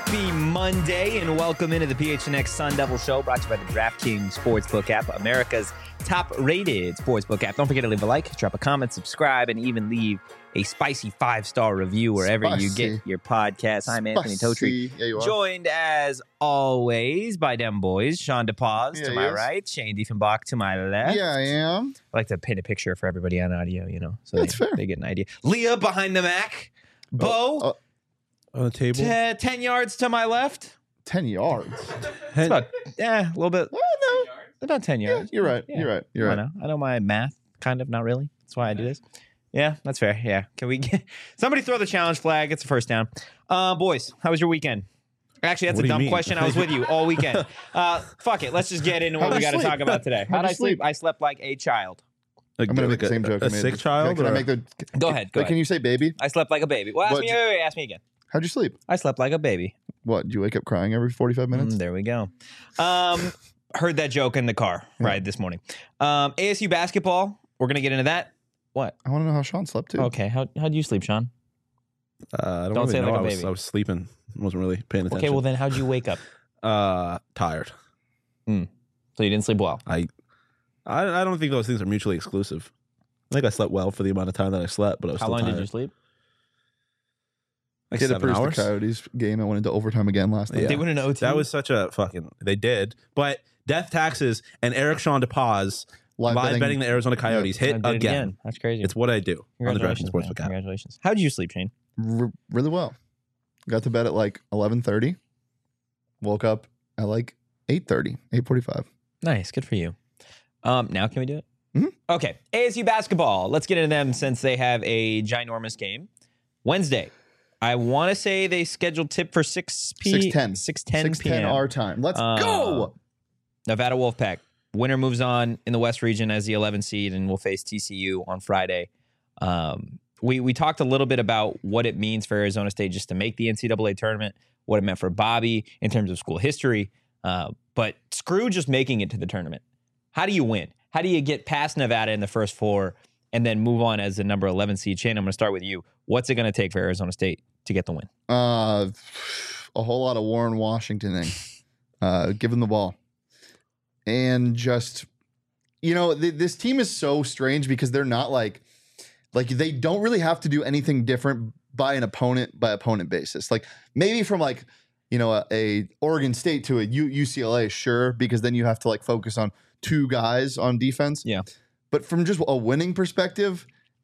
Happy Monday and welcome into the PHNX Sun Devil Show, brought to you by the DraftKings Sportsbook app, America's top-rated sportsbook app. Don't forget to leave a like, drop a comment, subscribe, and even leave a spicy 5-star review wherever you get your podcast. I'm Anthony Totri, joined as always by them boys, Sean DePaz to my right, Shane Diefenbach to my left. Yeah, I am. I like to paint a picture for everybody on audio, so That's fair. They get an idea. Leah behind the Mac. Bo. On the table. 10 yards to my left. 10 yards. It's about, a little bit. No. About 10 Yeah, yards. you're right. Yeah. You're right. I know my math, kind of, not really. That's why I do this. Yeah, that's fair. Yeah. Can we get somebody throw the challenge flag? It's a first down. Boys, how was your weekend? Actually, that's What a do you dumb mean? question. I was with you all weekend. Fuck it. Let's just get into what How'd we you got to sleep? talk about today. How'd How'd you I sleep? sleep? I slept like a child. I'm going to make the same joke. A sick child? Can I or- make the... Go ahead. Go Can ahead. you say baby? I slept like a baby. Well, What- ask me again. How'd you sleep? I slept like a baby. What, do you wake up crying every 45 minutes? There we go. Heard that joke in the car ride this morning. ASU basketball. We're gonna get into that. What? I want to know how Sean slept, too. Okay. How'd you sleep, Sean? I don't Don't really say it know. like a baby. I was sleeping. Wasn't really paying attention. Okay. Well, then how'd you wake up? Tired. So you didn't sleep well. I don't think those things are mutually exclusive. I think I slept well for the amount of time that I slept, but I was How still long tired. did you sleep? Like Get 7 the hours. Coyotes game. I went into overtime again last night. Yeah. They went in OT. That was such a fucking. They did, but Death Taxes and Eric Sean DePaz live betting the Arizona Coyotes I hit did it again. That's crazy. It's what I do on the DraftKings Congratulations, man. Sportsbook app. Congratulations. How did you sleep, Shane? Really well. Got to bed at like 11:30. Woke up at like 8:30, 8:45. Nice. Good for you. Now can we do it? Mhm. Okay. ASU basketball. Let's get into them since they have a ginormous game. Wednesday. I want to say they scheduled tip for 6:10 6:10 p.m. our time. Let's go. Nevada Wolfpack. Winner moves on in the West region as the 11 seed and will face TCU on Friday. We talked a little bit about what it means for Arizona State just to make the NCAA tournament, what it meant for Bobby in terms of school history. But screw just making it to the tournament. How do you win? How do you get past Nevada in the first four and then move on as the number 11 seed? Shane, I'm going to start with you. What's it going to take for Arizona State to get the win? A whole lot of Warren Washingtoning. Give him the ball. And just, this team is so strange because they're not like they don't really have to do anything different by opponent basis. Like maybe from a Oregon State to a UCLA, sure, because then you have to focus on two guys on defense. Yeah. But from just a winning perspective,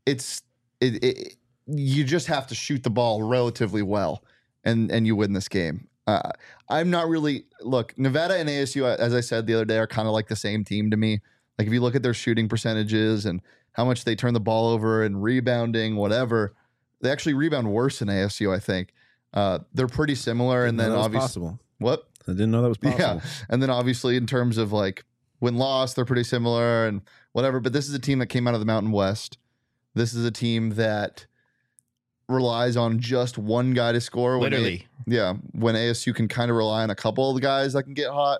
you just have to shoot the ball relatively well and you win this game. I'm not really Nevada and ASU, as I said the other day, are kind of like the same team to me. Like if you look at their shooting percentages and how much they turn the ball over and rebounding, whatever, they actually rebound worse than ASU, I think. They're pretty similar. And then obviously, possible. What? I didn't know that was possible. Yeah. And then obviously in terms of win-loss, they're pretty similar and whatever. But this is a team that came out of the Mountain West. This is a team that relies on just one guy to score. Literally. When ASU can kind of rely on a couple of the guys that can get hot.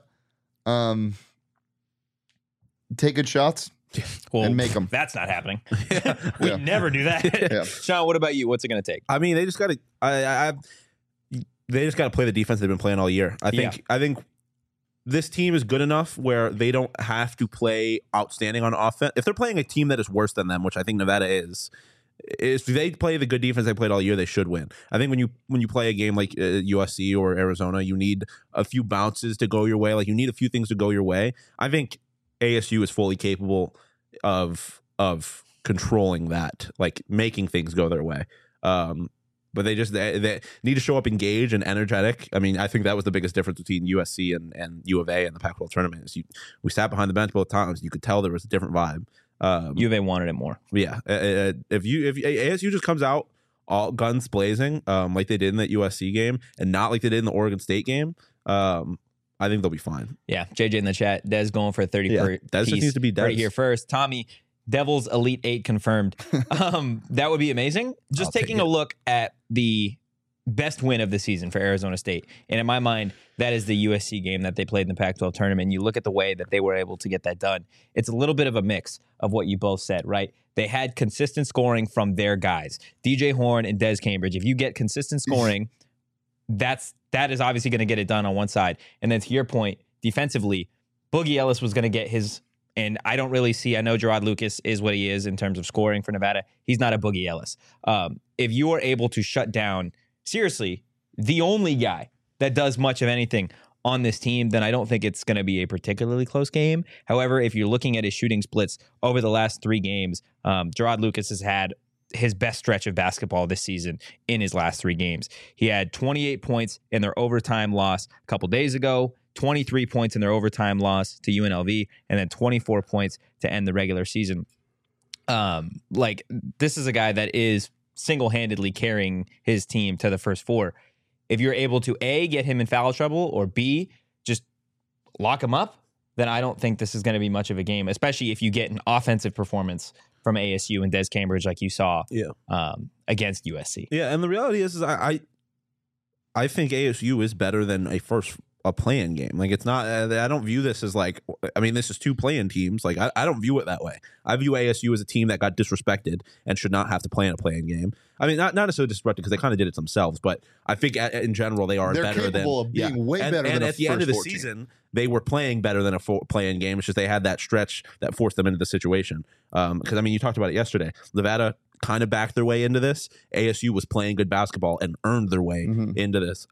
Take good shots and make them. That's not happening. We Yeah. never do that. Yeah. Sean, what about you? What's it going to take? I mean, they just got to. They just got to play the defense they've been playing all year. I think this team is good enough where they don't have to play outstanding on offense. If they're playing a team that is worse than them, which I think Nevada is, if they play the good defense they played all year, they should win. I think when you play a game like USC or Arizona, you need a few bounces to go your way. You need a few things to go your way. I think ASU is fully capable of controlling that, making things go their way. But they need to show up engaged and energetic. I mean, I think that was the biggest difference between USC and U of A in the Pac-12 tournament. Is we sat behind the bench both times. You could tell there was a different vibe. U of A wanted it more. Yeah. If ASU just comes out all guns blazing, like they did in that USC game, and not like they did in the Oregon State game, I think they'll be fine. Yeah. JJ in the chat. Des going for a 30 Yeah, per Des just piece. needs to be Des. Right here first. Tommy, Devils Elite 8 confirmed. That would be amazing. Just I'll take taking a it. look at the best win of the season for Arizona State. And in my mind, that is the USC game that they played in the Pac-12 tournament. You look at the way that they were able to get that done. It's a little bit of a mix of what you both said, right? They had consistent scoring from their guys, DJ Horn and Des Cambridge. If you get consistent scoring, that's that is obviously going to get it done on one side. And then to your point, defensively, Boogie Ellis was going to get his. And I don't really see, I know Gerard Lucas is what he is in terms of scoring for Nevada. He's not a Boogie Ellis. If you are able to shut down, seriously, the only guy that does much of anything on this team, then I don't think it's going to be a particularly close game. However, if you're looking at his shooting splits over the last 3 games, Gerard Lucas has had his best stretch of basketball this season in his last 3 games. He had 28 points in their overtime loss a couple days ago, 23 points in their overtime loss to UNLV, and then 24 points to end the regular season. This is a guy that is single-handedly carrying his team to the first 4. If you're able to A, get him in foul trouble, or B, just lock him up, then I don't think this is going to be much of a game, especially if you get an offensive performance from ASU and Des Cambridge like you saw against USC. Yeah, and the reality is I think ASU is better than a play-in game. Like, it's not, I don't view this as like, I mean, this is 2 play-in teams. Like, I don't view it that way. I view ASU as a team that got disrespected and should not have to play in a play-in game. I mean, not necessarily disrespected because they kind of did it themselves, but I think in general they are better than. They're capable of being way better than a at the end of the 14. season, they were playing better than a play-in game. It's just they had that stretch that forced them into the situation. Because, I mean, you talked about it yesterday. Nevada kind of backed their way into this. ASU was playing good basketball and earned their way into this.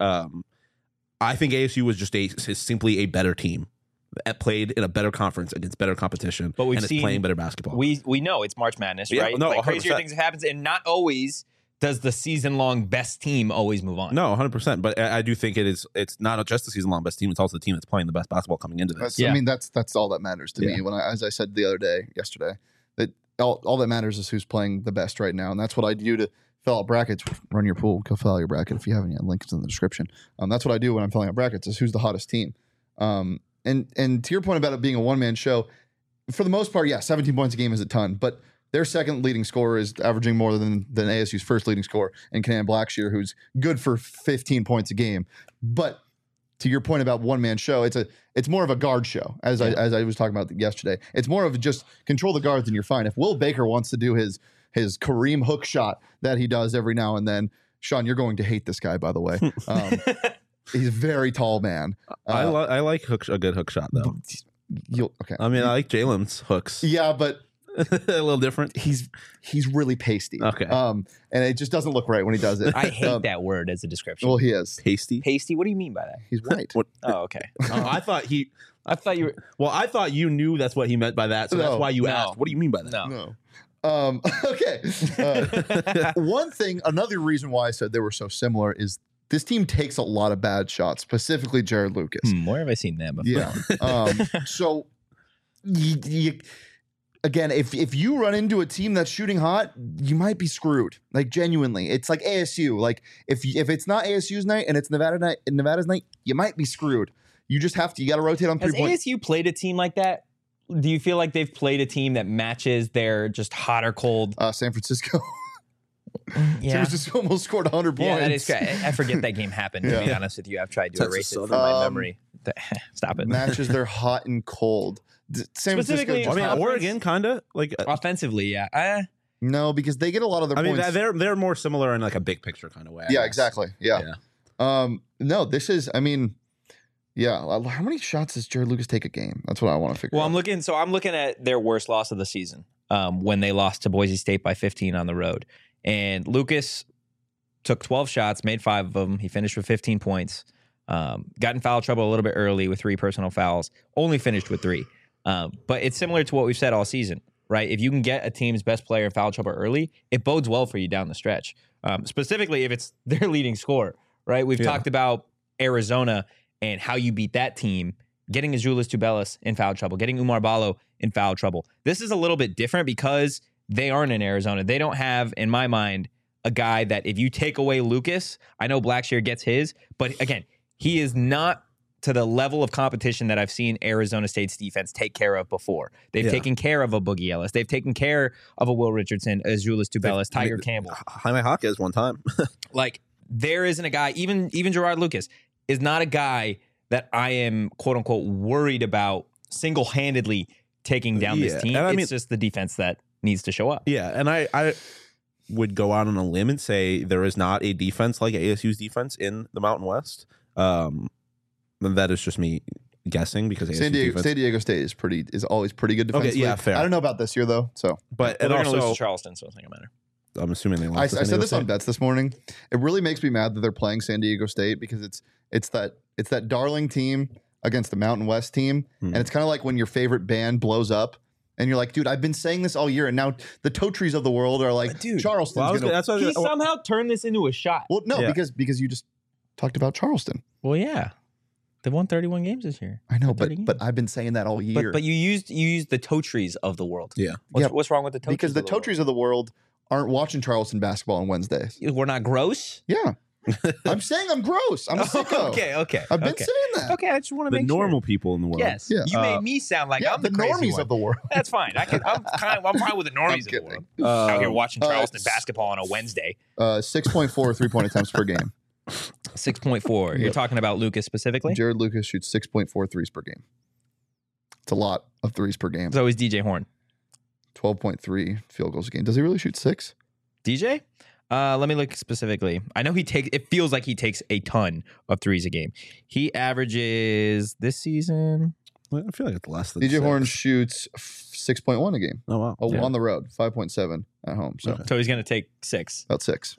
I think ASU was just is simply a better team that played in a better conference against better competition, but is playing better basketball. We know it's March Madness, right? No, like, crazier things happens, and not always does the season-long best team always move on. No, 100%. But I do think it's not just the season-long best team; it's also the team that's playing the best basketball coming into this. I mean, that's all that matters to me. As I said yesterday, that all that matters is who's playing the best right now, and that's what I do to fill out brackets. Run your pool, go fill out your bracket if you haven't yet. Link is in the description. That's what I do when I'm filling out brackets: is who's the hottest team. And to your point about it being a one-man show, for the most part, 17 points a game is a ton, but their second leading scorer is averaging more than ASU's first leading scorer, and Kenan Blackshear, who's good for 15 points a game. But to your point about one-man show, it's more of a guard show, as I was talking about yesterday. It's more of just control the guards and you're fine. If Will Baker wants to do his Kareem hook shot that he does every now and then, Sean, you're going to hate this guy, by the way. He's a very tall man. I like a good hook shot, though. Okay. I mean, I like Jalen's hooks. Yeah, but a little different. He's really pasty. Okay. And it just doesn't look right when he does it. I hate that word as a description. Well, he is pasty. Pasty. What do you mean by that? He's white. Oh, okay. I thought you were. Well, I thought you knew that's what he meant by that, so that's why you asked. What do you mean by that? No. Okay. Another reason why I said they were so similar is this team takes a lot of bad shots, specifically Jared Lucas. Where have I seen that before? Yeah. So, again, if you run into a team that's shooting hot, you might be screwed. Like, genuinely, it's like ASU. Like, if it's not ASU's night and it's Nevada's night, you might be screwed. You just got to rotate on 3 points. Has ASU played a team like that? Do you feel like they've played a team that matches their just hot or cold? San Francisco. Yeah. San Francisco almost scored 100 points. Yeah, that is great. I forget that game happened, to be honest with you. I've tried to erase it from my memory. Stop it. Matches their hot and cold. San Specifically, Francisco, I mean, Oregon, kind of. Like, offensively, yeah. No, because they get a lot of their points. I mean, they're more similar in like a big picture kind of way. Yeah, exactly. Yeah. No, this is, I mean... Yeah, how many shots does Jared Lucas take a game? That's what I want to figure out. Well, I'm looking at their worst loss of the season when they lost to Boise State by 15 on the road. And Lucas took 12 shots, made 5 of them. He finished with 15 points. Got in foul trouble a little bit early with 3 personal fouls. Only finished with 3. But it's similar to what we've said all season, right? If you can get a team's best player in foul trouble early, it bodes well for you down the stretch. Specifically if it's their leading scorer, right? We've talked about Arizona and how you beat that team, getting Azuolas Tubelis in foul trouble, getting Oumar Ballo in foul trouble. This is a little bit different because they aren't in Arizona. They don't have, in my mind, a guy that if you take away Lucas, I know Blackshear gets his, but again, he is not to the level of competition that I've seen Arizona State's defense take care of before. They've taken care of a Boogie Ellis. They've taken care of a Will Richardson, Azuolas Tubelis, Tiger Campbell. Jaime Jaquez one time. Like, there isn't a guy, even Gerard Lucas, is not a guy that I am, quote unquote, worried about single-handedly taking down this team. It's just the defense that needs to show up. Yeah, and I would go out on a limb and say there is not a defense like ASU's defense in the Mountain West. That is just me guessing because ASU's San defense. Diego State is always pretty good defensively. Okay, yeah, fair. I don't know about this year though. So, But Well, and they're going to lose also, to Charleston, so it doesn't matter. I'm assuming they I lost. to San said Diego this on State. bets this morning. It really makes me mad that they're playing San Diego State because it's that darling team against the Mountain West team, and it's kind of like when your favorite band blows up. And you're like, dude, I've been saying this all year, and now the Totries of the world are like, Dude, Charleston's Well, gonna. that's what I was gonna- somehow turned this into a shot. Well, no, Yeah. because you just talked about Charleston. Well, yeah. They've won 31 games this year. I know, 30 but I've been saying that all year. But you used the Totries of the world. Yeah. What's wrong with the Totries? because the of the world? Totries of the world aren't watching Charleston basketball on Wednesdays. We're not gross. Yeah, I'm saying I'm gross. I'm a sicko. Okay. I've been okay. saying that. Okay, I just want to the make normal people in the world. Sure. Yes, Yeah. you made me sound like Yeah, I'm the crazy normies one. of the world. That's fine. I'm fine with the normies of the kidding. world. Out here watching Charleston s- basketball on a Wednesday. 6.4 3-point attempts per game. 6.4. You're talking about Lucas specifically. Jared Lucas shoots 6.4 threes per game. It's a lot of threes per game. So is DJ Horn. 12.3 field goals a game. Does he really shoot 6? DJ? Let me look specifically. I know it feels like he takes a ton of threes a game. He averages this season. I feel like it's less than DJ 6. Horn shoots 6.1 a game. Oh wow. On the road, 5.7 at home. So Okay. So he's going to take 6. about 6.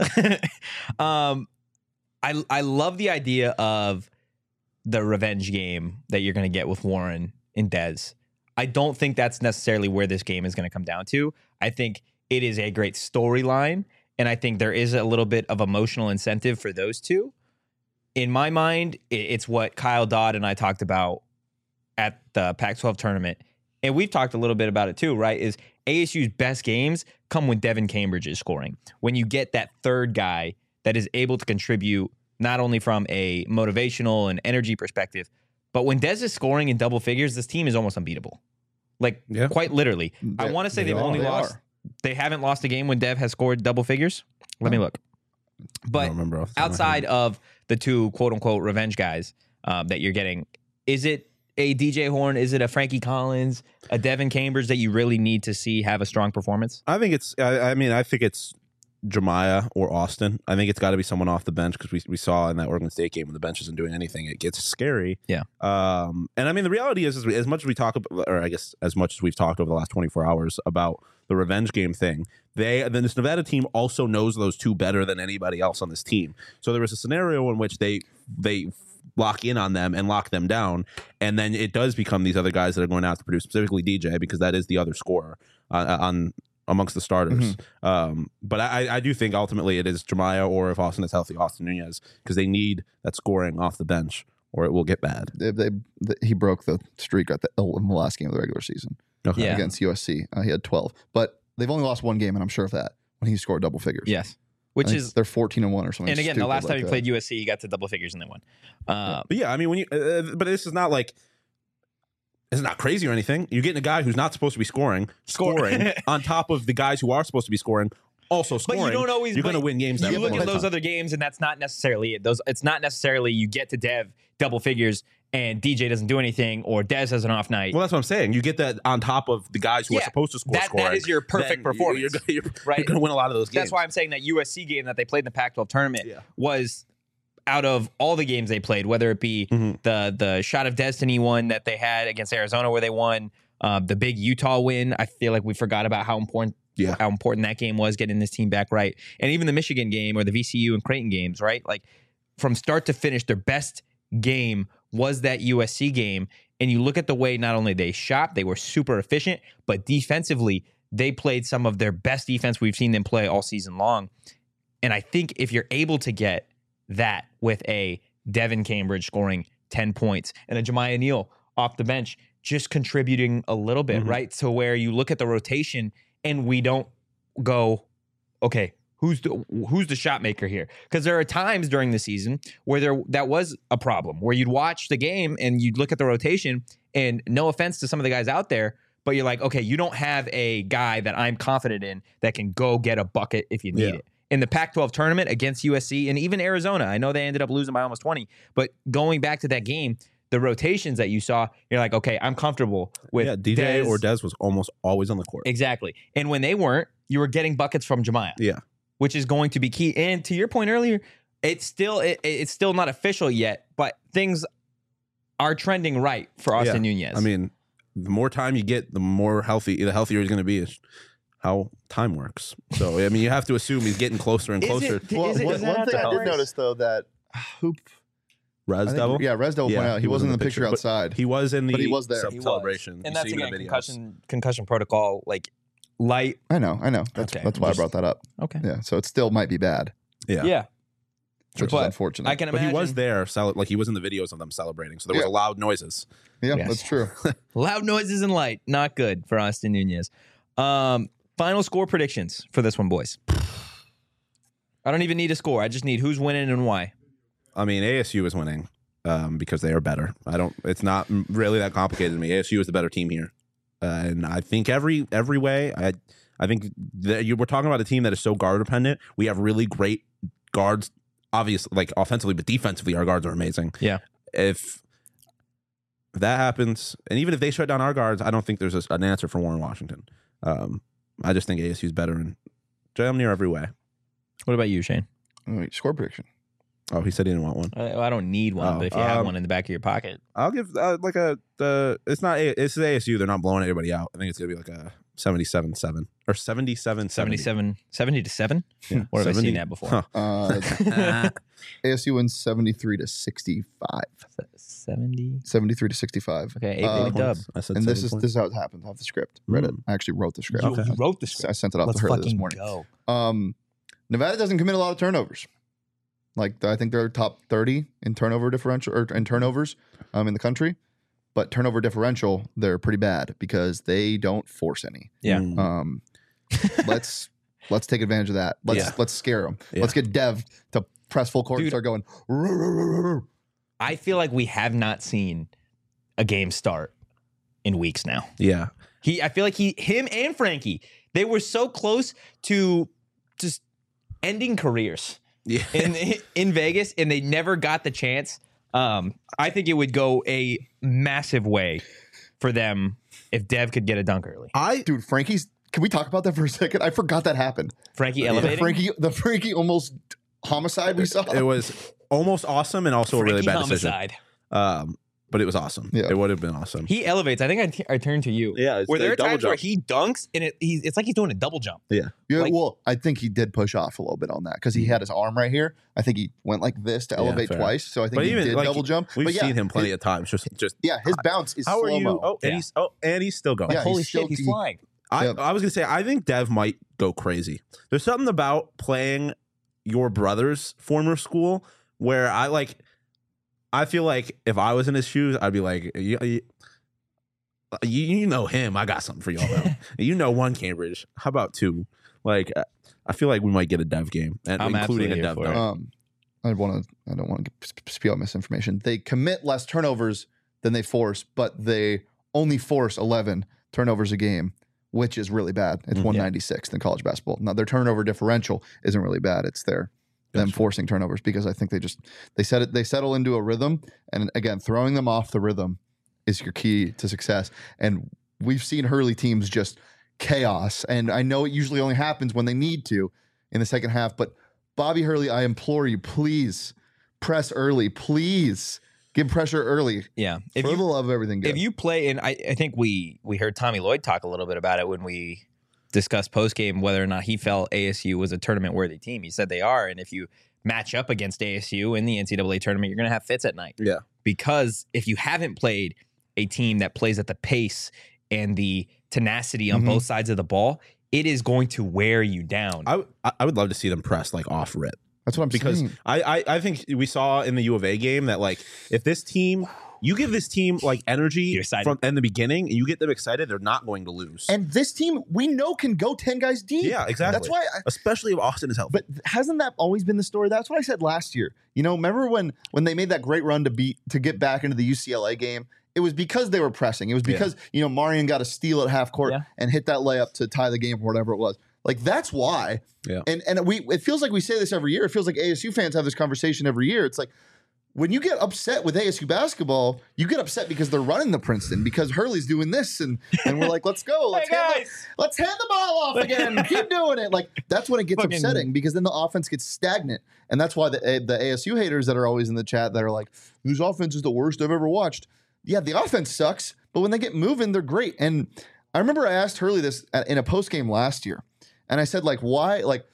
I love the idea of the revenge game that you're going to get with Warren and Dez. I don't think that's necessarily where this game is going to come down to. I think it is a great storyline, and I think there is a little bit of emotional incentive for those two. In my mind, it's what Kyle Dodd and I talked about at the Pac-12 tournament, and we've talked a little bit about it too, right? Is ASU's best games come when Devin Cambridge is scoring. When you get that third guy that is able to contribute not only from a motivational and energy perspective, but when Dez is scoring in double figures, this team is almost unbeatable. Like, Yeah. quite literally. I want to say they've only lost. They haven't lost a game when Dev has scored double figures. Let me look. I But don't remember off the top of my outside head. of the two quote unquote revenge guys that you're getting, is it a DJ Horn? Is it a Frankie Collins, a Devin Cambridge that you really need to see have a strong performance? I think it's. I think it's Jemiah or Austin. I think it's got to be someone off the bench because we saw in that Oregon State game when the bench isn't doing anything, it gets scary. Yeah. And I mean, the reality is as much as we talk about, or I guess as much as we've talked over the last 24 hours about the revenge game thing, then this Nevada team also knows those two better than anybody else on this team. So there was a scenario in which they lock in on them and lock them down, and then it does become these other guys that are going to have to produce, specifically DJ, because that is the other scorer on amongst the starters. But I do think ultimately it is Jemiah, or if Austin is healthy, Austin Nunez, because they need that scoring off the bench or it will get bad. He broke the streak in the last game of the regular season Yeah. against USC. He had 12, but they've only lost one game, and I'm sure of that, when he scored double figures. Yes. I Which think is, they're 14-1 or something. and again, the stupid last time like he that. played USC, he got to double figures and they won. But yeah, I mean, when you, but this is not like, it's not crazy or anything. You're getting a guy who's not supposed to be scoring on top of the guys who are supposed to be scoring, also scoring. But you don't always. You're going to win games. You that look way. at those other games, and that's not necessarily it. It's not necessarily you get to Dev double figures and DJ doesn't do anything, or Dez has an off night. Well, that's what I'm saying. You get that on top of the guys who are supposed to score. That is your perfect then performance. You're Right. going to win a lot of those games. That's why I'm saying that USC game that they played in the Pac-12 tournament Yeah. was, out of all the games they played, whether it be the Shot of Destiny one that they had against Arizona where they won, the big Utah win. I feel like we forgot about how important that game was, getting this team back right, and even the Michigan game or the VCU and Creighton games, right? Like from start to finish, their best game was that USC game. And you look at the way not only they shot, they were super efficient, but defensively, they played some of their best defense we've seen them play all season long. And I think if you're able to get that with a Devin Cambridge scoring 10 points and a Jemiah Neal off the bench just contributing a little bit, right? So where you look at the rotation and we don't go, okay, who's the shot maker here? Because there are times during the season where that was a problem, where you'd watch the game and you'd look at the rotation, and no offense to some of the guys out there, but you're like, okay, you don't have a guy that I'm confident in that can go get a bucket if you need it. In the Pac-12 tournament against USC and even Arizona, I know they ended up losing by almost 20, but going back to that game, the rotations that you saw, you're like, okay, I'm comfortable with DJ or Dez was almost always on the court. Exactly. And when they weren't, you were getting buckets from Jemiah. Yeah. Which is going to be key. And to your point earlier, It's still not official yet, but things are trending right for Austin Nunez. I mean, the more time you get, the healthier he's going to be. Is how time works. So I mean, you have to assume he's getting closer and closer. One thing I did notice though that Res Devil? Res Devil pointed out he wasn't in the picture outside. He was in the but he was there. celebration. And that's again concussion protocol, like light. I know. That's why I brought that up. Okay. Yeah. So it still might be bad. Yeah. Which is unfortunate. I can imagine. But he was there, like he was in the videos of them celebrating. So there was loud noises. Yeah, Yes. that's true. Loud noises and light. Not good for Austin Nunez. Final score predictions for this one, boys. I don't even need a score. I just need who's winning and why. I mean, ASU is winning because they are better. It's not really that complicated to me. ASU is the better team here. And I think every way, I think we're talking about a team that is so guard dependent. We have really great guards, obviously, like offensively, but defensively, our guards are amazing. Yeah. If that happens, and even if they shut down our guards, I don't think there's an answer for Warren Washington. I just think ASU is better in damn near every way. What about you, Shane? Wait, score prediction. Oh, he said he didn't want one. I don't need one, but if you have one in the back of your pocket. I'll give it's ASU. They're not blowing anybody out. I think it's going to be like a 77-7 or 77-70. 70-7? Yeah. Where have I seen that before? Huh. ASU wins 73-65. 70? 73-65. Okay, 8 dub. I said And this 7 is how it happened. I have the script. Read it. I actually wrote the script. You wrote the script. I sent it off Let's to her fucking this morning. go. Nevada doesn't commit a lot of turnovers. Like I think they're top 30 in turnover differential or in turnovers in the country, but turnover differential they're pretty bad because they don't force any. Yeah. Let's take advantage of that. Let's scare them. Yeah. Let's get Dev to press full court and start going. I feel like we have not seen a game start in weeks now. Yeah. I feel like him and Frankie, they were so close to just ending careers. Yeah. in Vegas, and they never got the chance. I think it would go a massive way for them if Dev could get a dunk early. Dude, Frankie's. Can we talk about that for a second? I forgot that happened. Frankie elevating. The Frankie almost homicide we saw. It was almost awesome and also a really bad homicide. decision. But it was awesome. Yeah. It would have been awesome. He elevates. I think I turned to you. Yeah. Were there times where he dunks and it's like he's doing a double jump? Yeah. Well, I think he did push off a little bit on that because he had his arm right here. I think he went like this to elevate fair. twice. So I think he did double jump. We've seen him plenty of times. Just his bounce is how are you? slow-mo. And he's still going. Yeah, Holy shit, he's flying. I was gonna say I think Dev might go crazy. There's something about playing your brother's former school where I feel like if I was in his shoes, I'd be like, you know him. I got something for y'all. You know one Cambridge. How about two? Like, I feel like we might get a Dev game, and including a Dev dunk. I don't want to spew out misinformation. They commit less turnovers than they force, but they only force 11 turnovers a game, which is really bad. It's 196th in college basketball. Now their turnover differential isn't really bad. It's them forcing turnovers because I think they settle into a rhythm, and again, throwing them off the rhythm is your key to success. And we've seen Hurley teams just chaos, and I know it usually only happens when they need to in the second half, but Bobby Hurley, I implore you, please press early. Please give pressure early. Yeah. For the love of everything good. If you play, and I think we heard Tommy Lloyd talk a little bit about it when we discussed postgame whether or not he felt ASU was a tournament-worthy team. He said they are, and if you match up against ASU in the NCAA tournament, you're going to have fits at night. Yeah. Because if you haven't played a team that plays at the pace and the tenacity on both sides of the ball, it is going to wear you down. I would love to see them press like off rip. That's what I'm saying. Because I think we saw in the U of A game that like if this team, you give this team like energy from in the beginning and you get them excited, they're not going to lose. And this team we know can go 10 guys deep. Yeah, exactly. That's why especially if Austin is healthy. But hasn't that always been the story? That's what I said last year. You know, remember when they made that great run to get back into the UCLA game? It was because they were pressing. It was because, Marion got a steal at half court and hit that layup to tie the game or whatever it was. Like, that's why. Yeah. And it feels like we say this every year. It feels like ASU fans have this conversation every year. It's like, when you get upset with ASU basketball, you get upset because they're running the Princeton, because Hurley's doing this, and we're like, let's go, let's hand the ball off again, keep doing it. Like, that's when it gets upsetting, because then the offense gets stagnant, and that's why the ASU haters that are always in the chat that are like, "Whose offense is the worst I've ever watched?" Yeah, the offense sucks, but when they get moving, they're great. And I remember I asked Hurley this in a post game last year, and I said, like, why? Like,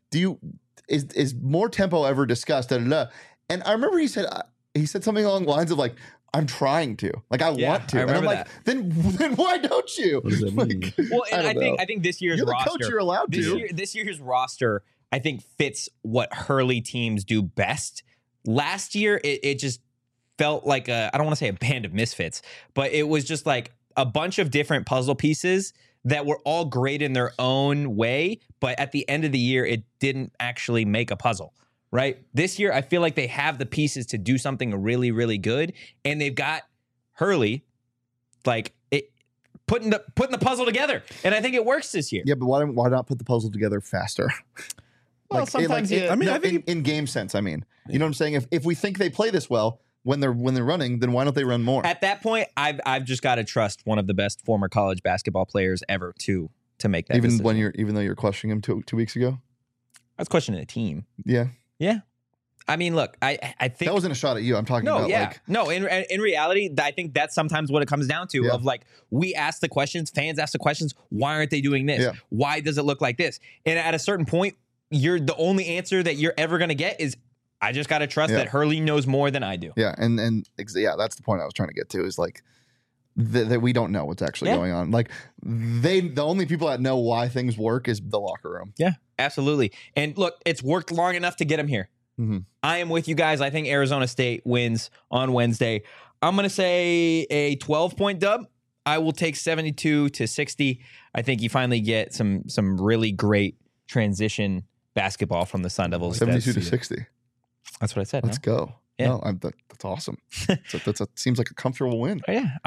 is more tempo ever discussed? Da, da, da. And I remember he said something along the lines of like, "I'm trying to, like, I want to." And I'm like, then why don't you? What does that mean? Like, Well, and I think this year's you're the roster, coach, you're allowed to. this year's roster, I think, fits what Hurley teams do best. Last year, it just felt like I don't want to say a band of misfits, but it was just like a bunch of different puzzle pieces that were all great in their own way, but at the end of the year, it didn't actually make a puzzle. Right? This year, I feel like they have the pieces to do something really, really good, and they've got Hurley, like, putting the puzzle together, and I think it works this year. Yeah, but why not put the puzzle together faster? Well, Like, sometimes I think in game sense. I mean, you know what I'm saying? If we think they play this well when they're running, then why don't they run more? at that point, I've just got to trust one of the best former college basketball players ever to make that. Even decision. though you're questioning him 2 weeks ago. I was questioning a team. Yeah. Yeah. I mean, look, I think That wasn't a shot at you. I'm talking about like, no. In reality, I think that's sometimes what it comes down to. Yeah. Of like, we ask the questions, fans ask the questions. Why aren't they doing this? Yeah. Why does it look like this? And at a certain point, the only answer that you're ever going to get is, I just got to trust that Hurley knows more than I do. yeah, and that's the point I was trying to get to, is like that we don't know what's actually going on. Like, the only people that know why things work is the locker room. Yeah, absolutely. And look, it's worked long enough to get him here. Mm-hmm. I am with you guys. I think Arizona State wins on Wednesday. I'm going to say a 12-point dub. I will take 72-60. I think you finally get some really great transition basketball from the Sun Devils. 72-60. That's what I said. Let's go. Yeah. No, that's awesome. Seems like a comfortable win. Oh, yeah,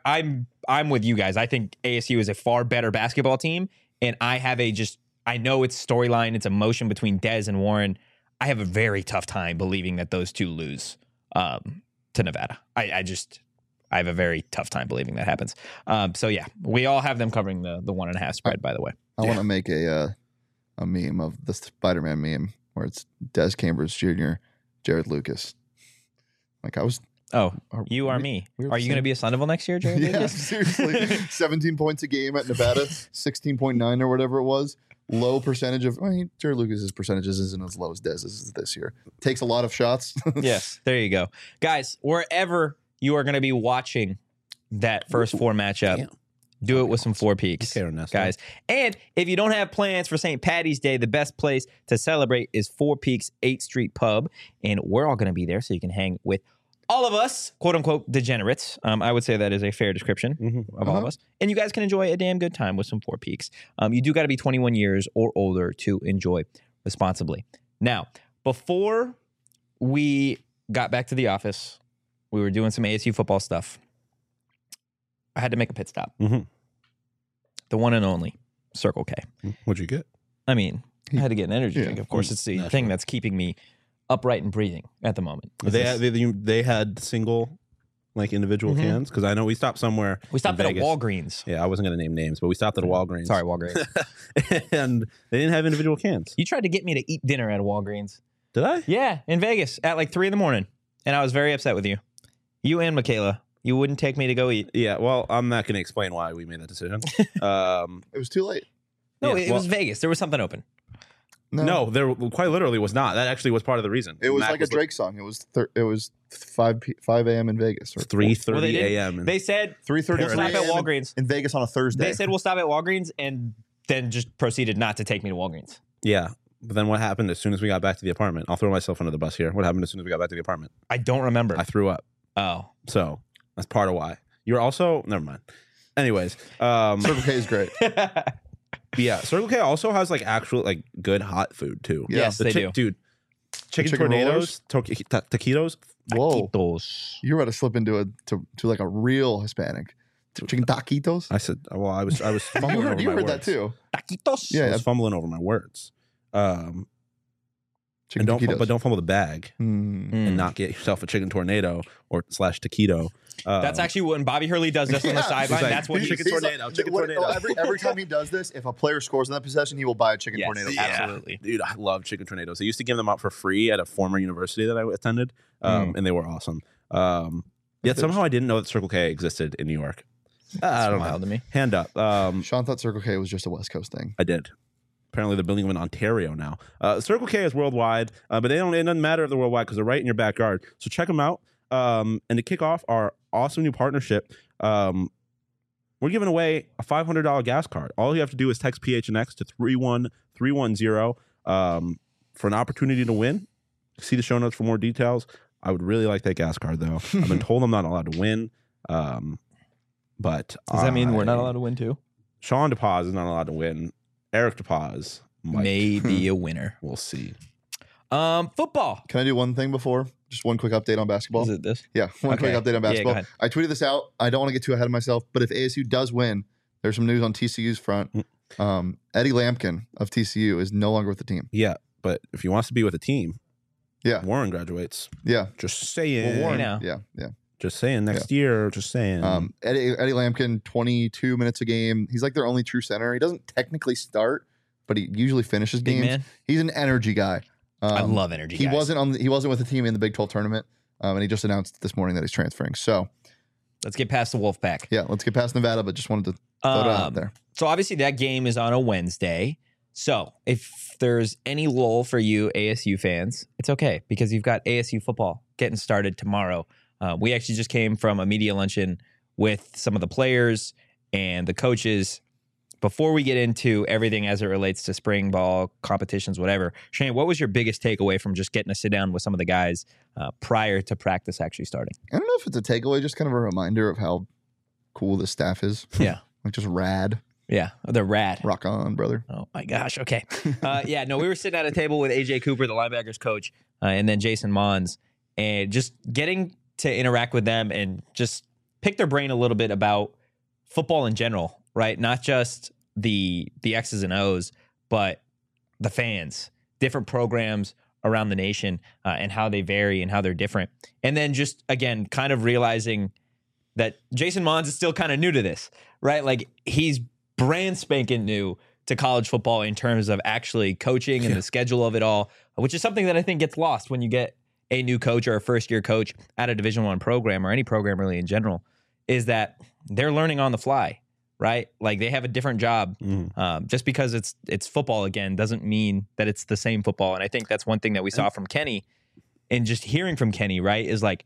I'm with you guys. I think ASU is a far better basketball team, and I know it's storyline, it's emotion between Dez and Warren. I have a very tough time believing that those two lose to Nevada. I have a very tough time believing that happens. So yeah, we all have them covering the 1.5 spread. By the way, I want to make a meme of the Spider-Man meme where it's Des Cambridge Jr., Jared Lucas. Like, you are me. We're Are you going to be a Sun Devil next year, Jared? Yeah, Lucas? seriously. 17 points a game at Nevada, 16.9 or whatever it was. Low percentage of Jared Lucas's percentages isn't as low as Dez's this year. Takes a lot of shots. Yes, there you go, guys. Wherever you are going to be watching that first four matchup, do it with some Four Peaks, guys. And if you don't have plans for St. Patty's Day, the best place to celebrate is Four Peaks 8th Street Pub, and we're all going to be there, so you can hang with all of us, quote unquote, degenerates. I would say that is a fair description of all of us. And you guys can enjoy a damn good time with some Four Peaks. You do got to be 21 years or older to enjoy responsibly. Now, before we got back to the office, we were doing some ASU football stuff. I had to make a pit stop. The one and only Circle K. What'd you get? I mean, I had to get an energy drink. Of course, it's the thing that's keeping me upright and breathing at the moment. They had single, like, individual cans, because I know we stopped somewhere. We stopped in at a Vegas. Walgreens. Yeah, I wasn't going to name names, but we stopped at a Walgreens. Sorry, Walgreens. And they didn't have individual cans. You tried to get me to eat dinner at a Walgreens. Did I? Yeah, in Vegas at like 3 a.m, and I was very upset with you. You and Michaela. You wouldn't take me to go eat. Yeah, well, I'm not going to explain why we made that decision. It was too late. No, it was Vegas. There was something open. No, there quite literally was not. That actually was part of the reason. It was like a Drake song. It was 5 a.m. in Vegas. Or 3:30 a.m. They said 3:30 we'll stop at Walgreens in Vegas on a Thursday. They said we'll stop at Walgreens, and then just proceeded not to take me to Walgreens. Yeah, but then what happened as soon as we got back to the apartment? I'll throw myself under the bus here. What happened as soon as we got back to the apartment? I don't remember. I threw up. Oh, so that's part of why. You're also never mind. Anyways, Circle K is great. Yeah, Circle K also has like actual like good hot food too. Yes, they do, dude. Chicken tornadoes, taquitos. Whoa, taquitos. You're about to slip into to like a real Hispanic. Chicken taquitos. I said, well, I was fumbling over my words. You heard that too. Taquitos. Yeah, I was fumbling over my words. Chicken Chicken taquitos. But don't fumble the bag and not get yourself a chicken tornado or / taquito. That's actually when Bobby Hurley does this on the sideline. like, that's what chicken tornado. Every time he does this, if a player scores in that possession, he will buy a chicken tornado. Absolutely. Dude, I love chicken tornadoes. They used to give them out for free at a former university that I attended, and they were awesome. Yet somehow I didn't know that Circle K existed in New York. I don't know. To me. Hand up. Sean thought Circle K was just a West Coast thing. I did. Apparently, they're building them in Ontario now. Circle K is worldwide, but it doesn't matter if they're worldwide because they're right in your backyard. So check them out. And to kick off our awesome new partnership, we're giving away a $500 gas card. All you have to do is text PHNX to 31310 for an opportunity to win. See the show notes for more details. I would really like that gas card, though. I've been told I'm not allowed to win. But does that mean we're not allowed to win too? Sean DePaz is not allowed to win. Eric DePaz may be a winner. We'll see. Football. Can I do one thing before? Just one quick update on basketball. Is it this? Yeah, one quick update on basketball. go ahead. I tweeted this out. I don't want to get too ahead of myself, but if ASU does win, there's some news on TCU's front. Eddie Lampkin of TCU is no longer with the team. Yeah, but if he wants to be with a team, Yeah. Warren graduates. Yeah. Just saying. Warren, know. yeah. Just saying. Next year. Just saying. Eddie Lampkin, 22 minutes a game. He's like their only true center. He doesn't technically start, but he usually finishes Big games. man. He's an energy guy. I love energy. He guys. wasn't with the team in the Big 12 tournament, and he just announced this morning that he's transferring. So Let's get past the Wolfpack. yeah, let's get past Nevada, but just wanted to throw it out there. So obviously that game is on a Wednesday. So if there's any lull for you ASU fans, it's okay because you've got ASU football getting started tomorrow. We actually just came from a media luncheon with some of the players and the coaches. Before we get into everything as it relates to spring ball competitions, whatever, Shane, what was your biggest takeaway from just getting to sit down with some of the guys prior to practice actually starting? I don't know if it's a takeaway, just kind of a reminder of how cool this staff is. Yeah. Like just rad. Yeah, they're rad. Rock on, brother. Oh my gosh. Okay. We were sitting at a table with AJ Cooper, the linebackers coach, and then Jason Mons, and just getting to interact with them and just pick their brain a little bit about football in general, right? Not just the X's and O's, but the fans, different programs around the nation, and how they vary and how they're different. And then just, again, kind of realizing that Jason Mons is still kind of new to this, right? Like he's brand spanking new to college football in terms of actually coaching and the schedule of it all, which is something that I think gets lost when you get a new coach or a first-year coach at a Division I program or any program really in general, is that they're learning on the fly, right? Like they have a different job. Just because it's football again doesn't mean that it's the same football. And I think that's one thing that we saw from Kenny, and just hearing from Kenny, right, is like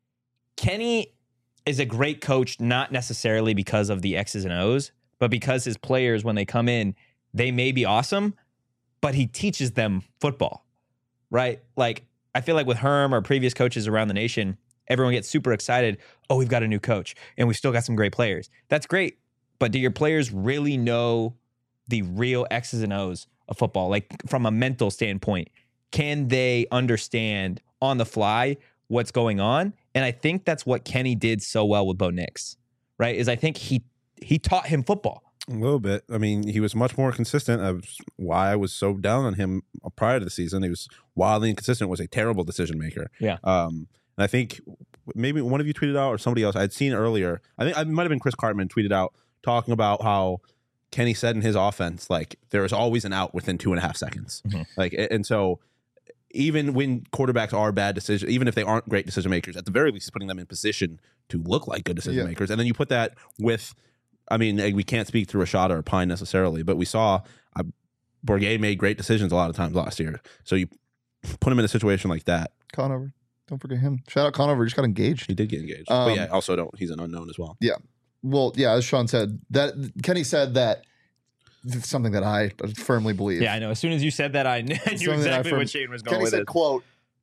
Kenny is a great coach, not necessarily because of the X's and O's, but because his players, when they come in, they may be awesome, but he teaches them football, right? Like I feel like with Herm or previous coaches around the nation, everyone gets super excited. Oh, we've got a new coach and we've still got some great players. That's great. But do your players really know the real X's and O's of football? Like from a mental standpoint, can they understand on the fly what's going on? And I think that's what Kenny did so well with Bo Nix, right? Is I think he taught him football. A little bit. I mean, he was much more consistent. That's why I was so down on him prior to the season. He was wildly inconsistent, was a terrible decision maker. Yeah. And I think maybe one of you tweeted out or somebody else, I'd seen earlier, I think it might have been Chris Cartman tweeted out talking about how Kenny said in his offense, like there is always an out within 2.5 seconds. Like, and so even when quarterbacks are bad decisions, even if they aren't great decision makers, at the very least, putting them in position to look like good decision makers. And then you put that with, I mean, we can't speak to Rashada or Pine necessarily, but we saw Bourguet made great decisions a lot of times last year. So you put him in a situation like that. Conover. Don't forget him. Shout out Conover. He just got engaged. He did get engaged. But yeah, also he's an unknown as well. Yeah. Well, yeah, as Sean said, that Kenny said that something that I firmly believe. Yeah, I know. As soon as you said that, I knew exactly what Shane was going Kenny with. said, "Quote: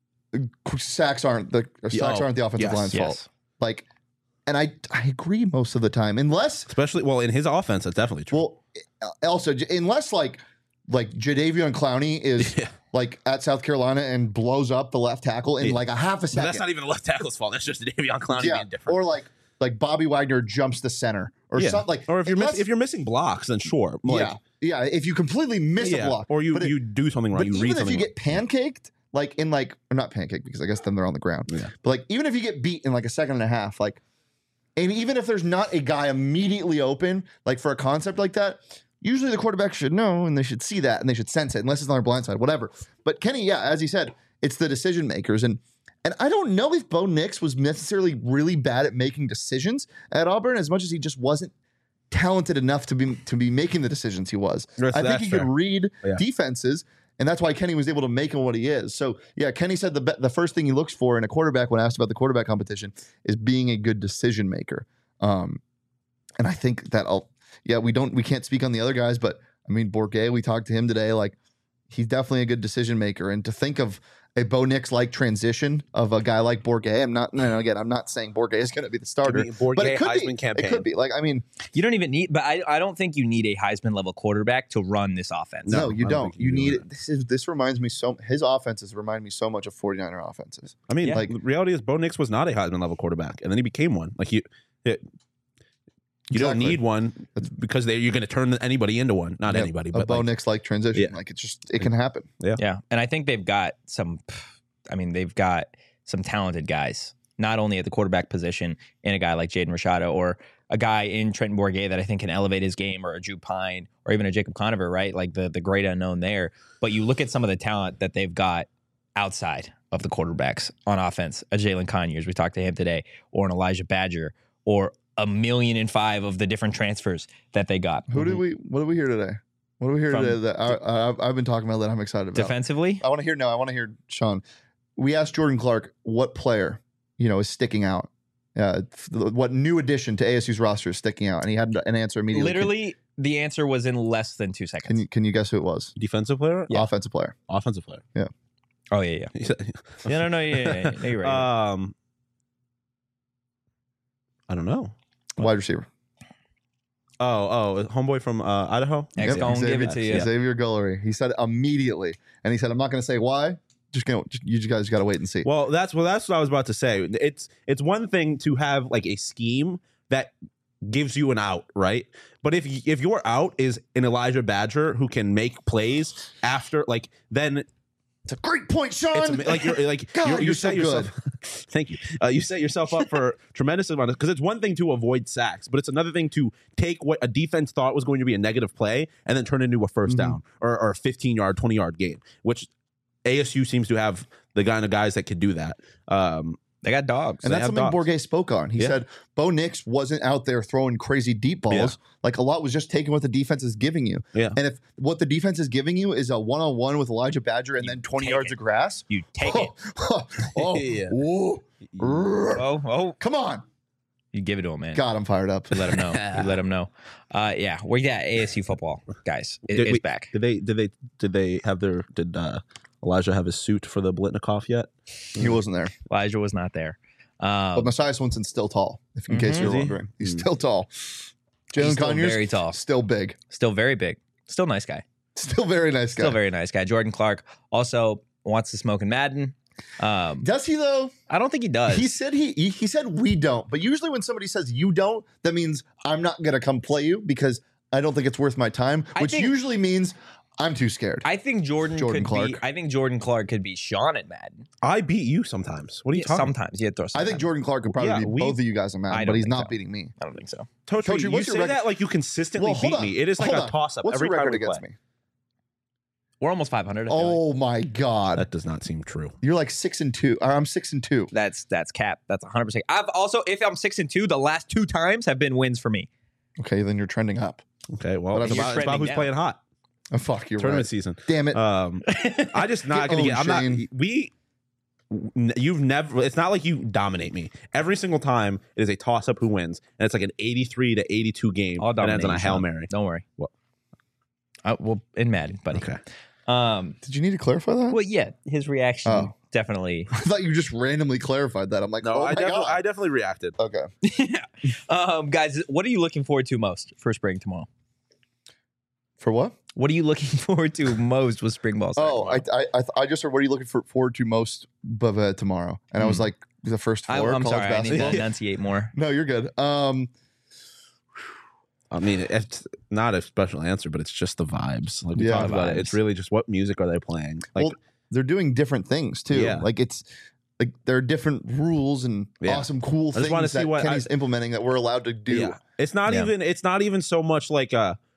sacks aren't the offensive line's fault." Like, and I agree most of the time, unless especially in his offense, that's definitely true. Well, also unless like Jadeveon Clowney is like at South Carolina and blows up the left tackle in like a half a second. But that's not even the left tackle's fault. That's just Jadeveon Clowney being different. Or like Bobby Wagner jumps the center or something like. Or if you're missing blocks, then sure. If you completely miss a block, or you do something wrong, you read something. Even if you get pancaked, or not pancake because I guess then they're on the ground. Yeah. But like even if you get beat in like a second and a half, like, and even if there's not a guy immediately open, like for a concept like that, usually the quarterback should know and they should see that and they should sense it, unless it's on their blind side, whatever. But Kenny, yeah, as he said, it's the decision makers. And I don't know if Bo Nix was necessarily really bad at making decisions at Auburn as much as he just wasn't talented enough to be making the decisions he was. I think he could read defenses. And that's why Kenny was able to make him what he is. So, yeah, Kenny said the first thing he looks for in a quarterback when asked about the quarterback competition is being a good decision maker. And I think that we can't speak on the other guys, but I mean, Bourguet, we talked to him today. Like, he's definitely a good decision maker. And to think of a Bo Nix like transition of a guy like Bourguet, I'm not saying Bourguet is going to be the starter, but it could Heisman be. campaign. It could be. Like, I mean, you don't even need, but I don't think you need a Heisman level quarterback to run this offense. No, you don't. You need it. This reminds me his offenses remind me so much of 49er offenses. I mean, like the reality is Bo Nix was not a Heisman level quarterback, and then he became one. Like you don't need one because you're going to turn anybody into one. Not anybody, but Bo Nix like transition. Yeah. Like it can happen. Yeah. And I think they've got some talented guys, not only at the quarterback position in a guy like Jaden Rashada or a guy in Trenton Bourguet that I think can elevate his game, or a Drew Pine or even a Jacob Conover, right? Like the great unknown there. But you look at some of the talent that they've got outside of the quarterbacks on offense, a Jalen Conyers, we talked to him today, or an Elijah Badger, or 1,000,005 of the different transfers that they got. What do we hear today? What do we hear today that I've been talking about that I'm excited about? Defensively? I want to hear Sean. We asked Jordan Clark what player, is sticking out. What new addition to ASU's roster is sticking out? And he had an answer immediately. Literally, the answer was in less than 2 seconds. Can you guess who it was? Defensive player? Yeah. Offensive player. Offensive player. Yeah. Oh, yeah. No, you're right. I don't know. Wide receiver. Homeboy from Idaho. X gonna give it to you. Xavier Guillory. He said it immediately, and he said, "I'm not going to say why. You guys got to wait and see." Well, that's what I was about to say. It's one thing to have like a scheme that gives you an out, right? But if your out is an Elijah Badger who can make plays after, like, then. It's a great point, Sean. You so set yourself. Thank you. You set yourself up for tremendous amount because it's one thing to avoid sacks, but it's another thing to take what a defense thought was going to be a negative play and then turn it into a first down or a 15-yard, 20-yard game, which ASU seems to have the kind of guys that could do that. They got dogs. And that's something Bourguet spoke on. He said Bo Nix wasn't out there throwing crazy deep balls. Yeah. Like, a lot was just taking what the defense is giving you. Yeah. And if what the defense is giving you is a one-on-one with Elijah Badger and then 20 yards of grass, you take it. Come on. You give it to him, man. God, I'm fired up. You let him know. Yeah, we got ASU football, guys. It's back. Did Elijah have his suit for the Blitnikoff yet? He wasn't there. Elijah was not there. But Messiah Swinson's still tall, in case you're wondering. He's still tall. Jalen Conyers, very tall. Still big. Still very big. Still nice guy. Still very nice guy. Still very nice guy. Jordan Clark also wants to smoke in Madden. Does he, though? I don't think he does. He said he said we don't. But usually when somebody says you don't, that means I'm not going to come play you because I don't think it's worth my time, which usually means I'm too scared. I think Jordan Clark could be Sean at Madden. I beat you sometimes. What are you talking? Sometimes you throw. I think Jordan Clark could probably beat both of you guys at Madden, but he's not beating me. I don't think so. Tochi, you say that like you consistently beat me. It is like a toss up every time we play. Me? We're almost 500. Oh my God, that does not seem true. You're like 6-2. Or I'm 6-2. That's cap. That's 100%. I've also, if I'm 6-2, the last 2 times have been wins for me. Okay, then you're trending up. Okay, well, it's about who's playing hot. Oh, fuck, you're tournament right. season. Damn it. I just not gonna get. I'm not. You've never. It's not like you dominate me. Every single time it is a toss up who wins, and it's like an 83-82 game that ends on a Hail Mary. Don't worry. Well, in Madden, buddy. Okay. Did you need to clarify that? Well, yeah. His reaction definitely. I thought you just randomly clarified that. I'm like, no, I definitely reacted. Okay. Guys, what are you looking forward to most for spring tomorrow? For what? What are you looking forward to most with spring ball? I just heard, what are you looking forward to most tomorrow? And I was like, the first 4 I'm college sorry, basketball. I need to enunciate more. No, you're good. I mean, it's not a special answer, but it's just the vibes. Like we talked about it. It's really just what music are they playing? Like, they're doing different things too. Yeah. Like it's like there are different rules and Yeah. awesome, cool I just wanna things see that what Kenny's implementing that we're allowed to do. Yeah. It's not Yeah. even. It's not even so much like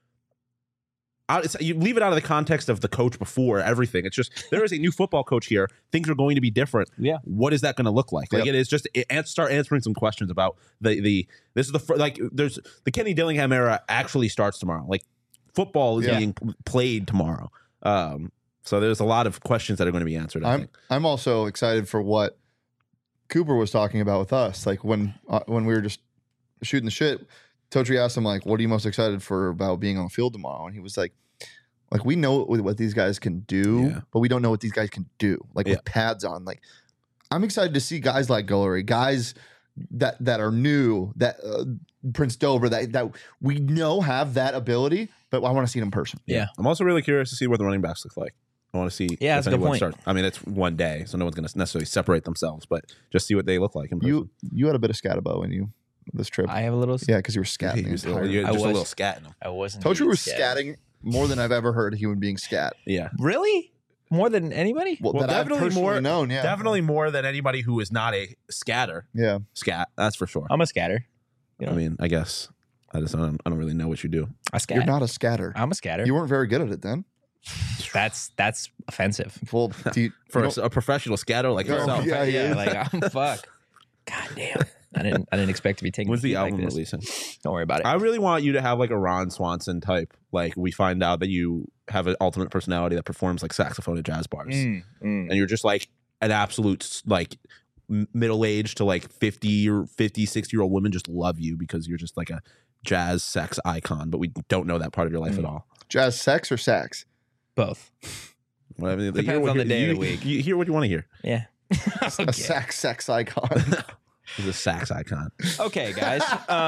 you leave it out of the context of the coach before everything. It's just there is a new football coach here. Things are going to be different. Yeah. What is that going to look like? Like Yep. it is just start answering some questions about the. This is there's the Kenny Dillingham era actually starts tomorrow. Like football is Yeah. being played tomorrow. So there's a lot of questions that are going to be answered. I think. I'm also excited for what Cooper was talking about with us. Like when we were just shooting the shit, Totri asked him like, "What are you most excited for about being on the field tomorrow?" And he was like, we know what these guys can do, Yeah. but we don't know what these guys can do. Like Yeah. with pads on. Like I'm excited to see guys like Guillory, guys that are new, that Prince Dover, that we know have that ability, but I want to see it in person. Yeah. I'm also really curious to see what the running backs look like. I want to see. Yeah, that's if a good anyone point. I mean, it's one day, so no one's going to necessarily separate themselves, but just see what they look like in person. You had a bit of scatabo in you this trip. I have a little. Yeah, because you were scatting. the entire- You're I just a was- little scat in them. I wasn't. Totri indeed was scared. scatting more than I've ever heard a human being scat. Yeah, Really? More than anybody? Well, Well, that I've definitely personally more- known. Yeah, definitely more than anybody who is not a scatter. Yeah, Scat, that's for sure. I'm a scatter. You know, I mean, I guess I don't really know what you do. I scat. you're not a scatter. I'm a scatter. You weren't very good at it then. That's offensive. Well, do you, For you a, don't- a professional scatter like Oh, yourself. yeah. yeah. Like I'm fuck. God damn. I didn't expect to be taken. When's the like album this. releasing? Don't worry about it. I really want you to have like a Ron Swanson type. Like we find out that you have an alternate personality that performs like saxophone at jazz bars, and you're just like an absolute like middle aged to like 50 or 50, 60-year-old women just love you because you're just like a jazz sex icon, but we don't know that part of your life at all. jazz sex or sax? Both. Well, I mean, Depends hear what on the you- day of you- the week. You hear what you want to hear. Yeah. A okay. sax sex icon. He's a sax icon. Okay, guys.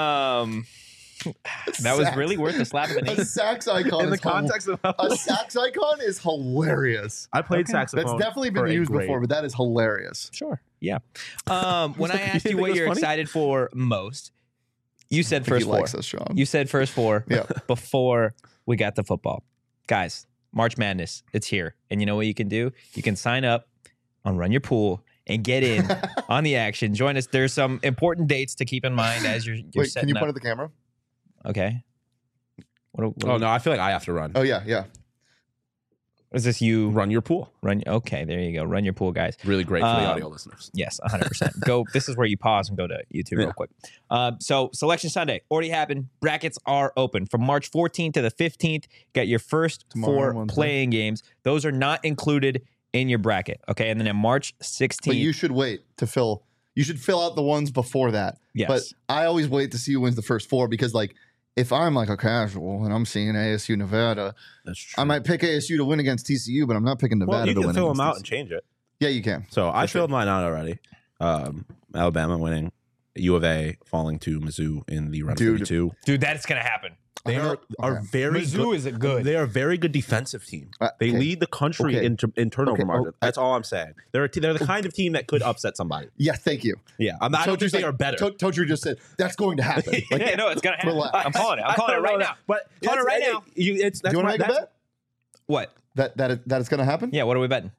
That was Sax. really worth a slap of the knee. A sax icon. In the is context of a sax icon is hilarious. I played Okay. saxophone. That's definitely for been a used grade. before, but that is hilarious. Sure. Yeah. When I asked You you think what it was you're funny? excited for most, you said I think first he four. likes us, Sean. You said first four Yeah. before we got the football. Guys, March Madness, it's here. And you know what you can do? You can sign up on Run Your Pool and get in on the action. Join us. There's some important dates to keep in mind as you're Wait, setting can you up. point at the camera? Okay. What Oh no, I feel like I have to run. Oh yeah, yeah. is this you? Run your pool. Run. Okay, there you go. Run Your Pool, guys. Really great for the Um, audio listeners. Yes, 100%. Go. This is where you pause and go to YouTube Yeah. real quick. So Selection Sunday already happened. Brackets are open from March 14th to the 15th. Got your first Tomorrow, four Wednesday. playing games. Those are not included in your bracket. Okay, and then on March 16th. But you should wait to fill. You should fill out the ones before that. yes. But I always wait to see who wins the first four because, like, if I'm like a casual and I'm seeing ASU Nevada, That's true. I might pick ASU to win against TCU, but I'm not picking Nevada well, you to can win. fill them against out TCU. and change it. Yeah, you can. So I For sure. filled mine out already. Alabama winning, U of A falling to Mizzou in the round of Dude. 32. dude, that's gonna happen. They Okay. are very Mizzou good. is a good. They are a very good defensive team. They Okay. lead the country Okay. in turnover Okay. margin. Oh, That's all I'm saying. They're the kind of team that could upset somebody. Yeah, thank you. Yeah, I don't think they are better. Totri just said that's going to happen. Like, yeah, no, it's gonna happen. Relax. I'm calling it. I'm calling it right now. But Calling it right now. do you want to make a bet What? that it's going to happen? Yeah. What are we betting?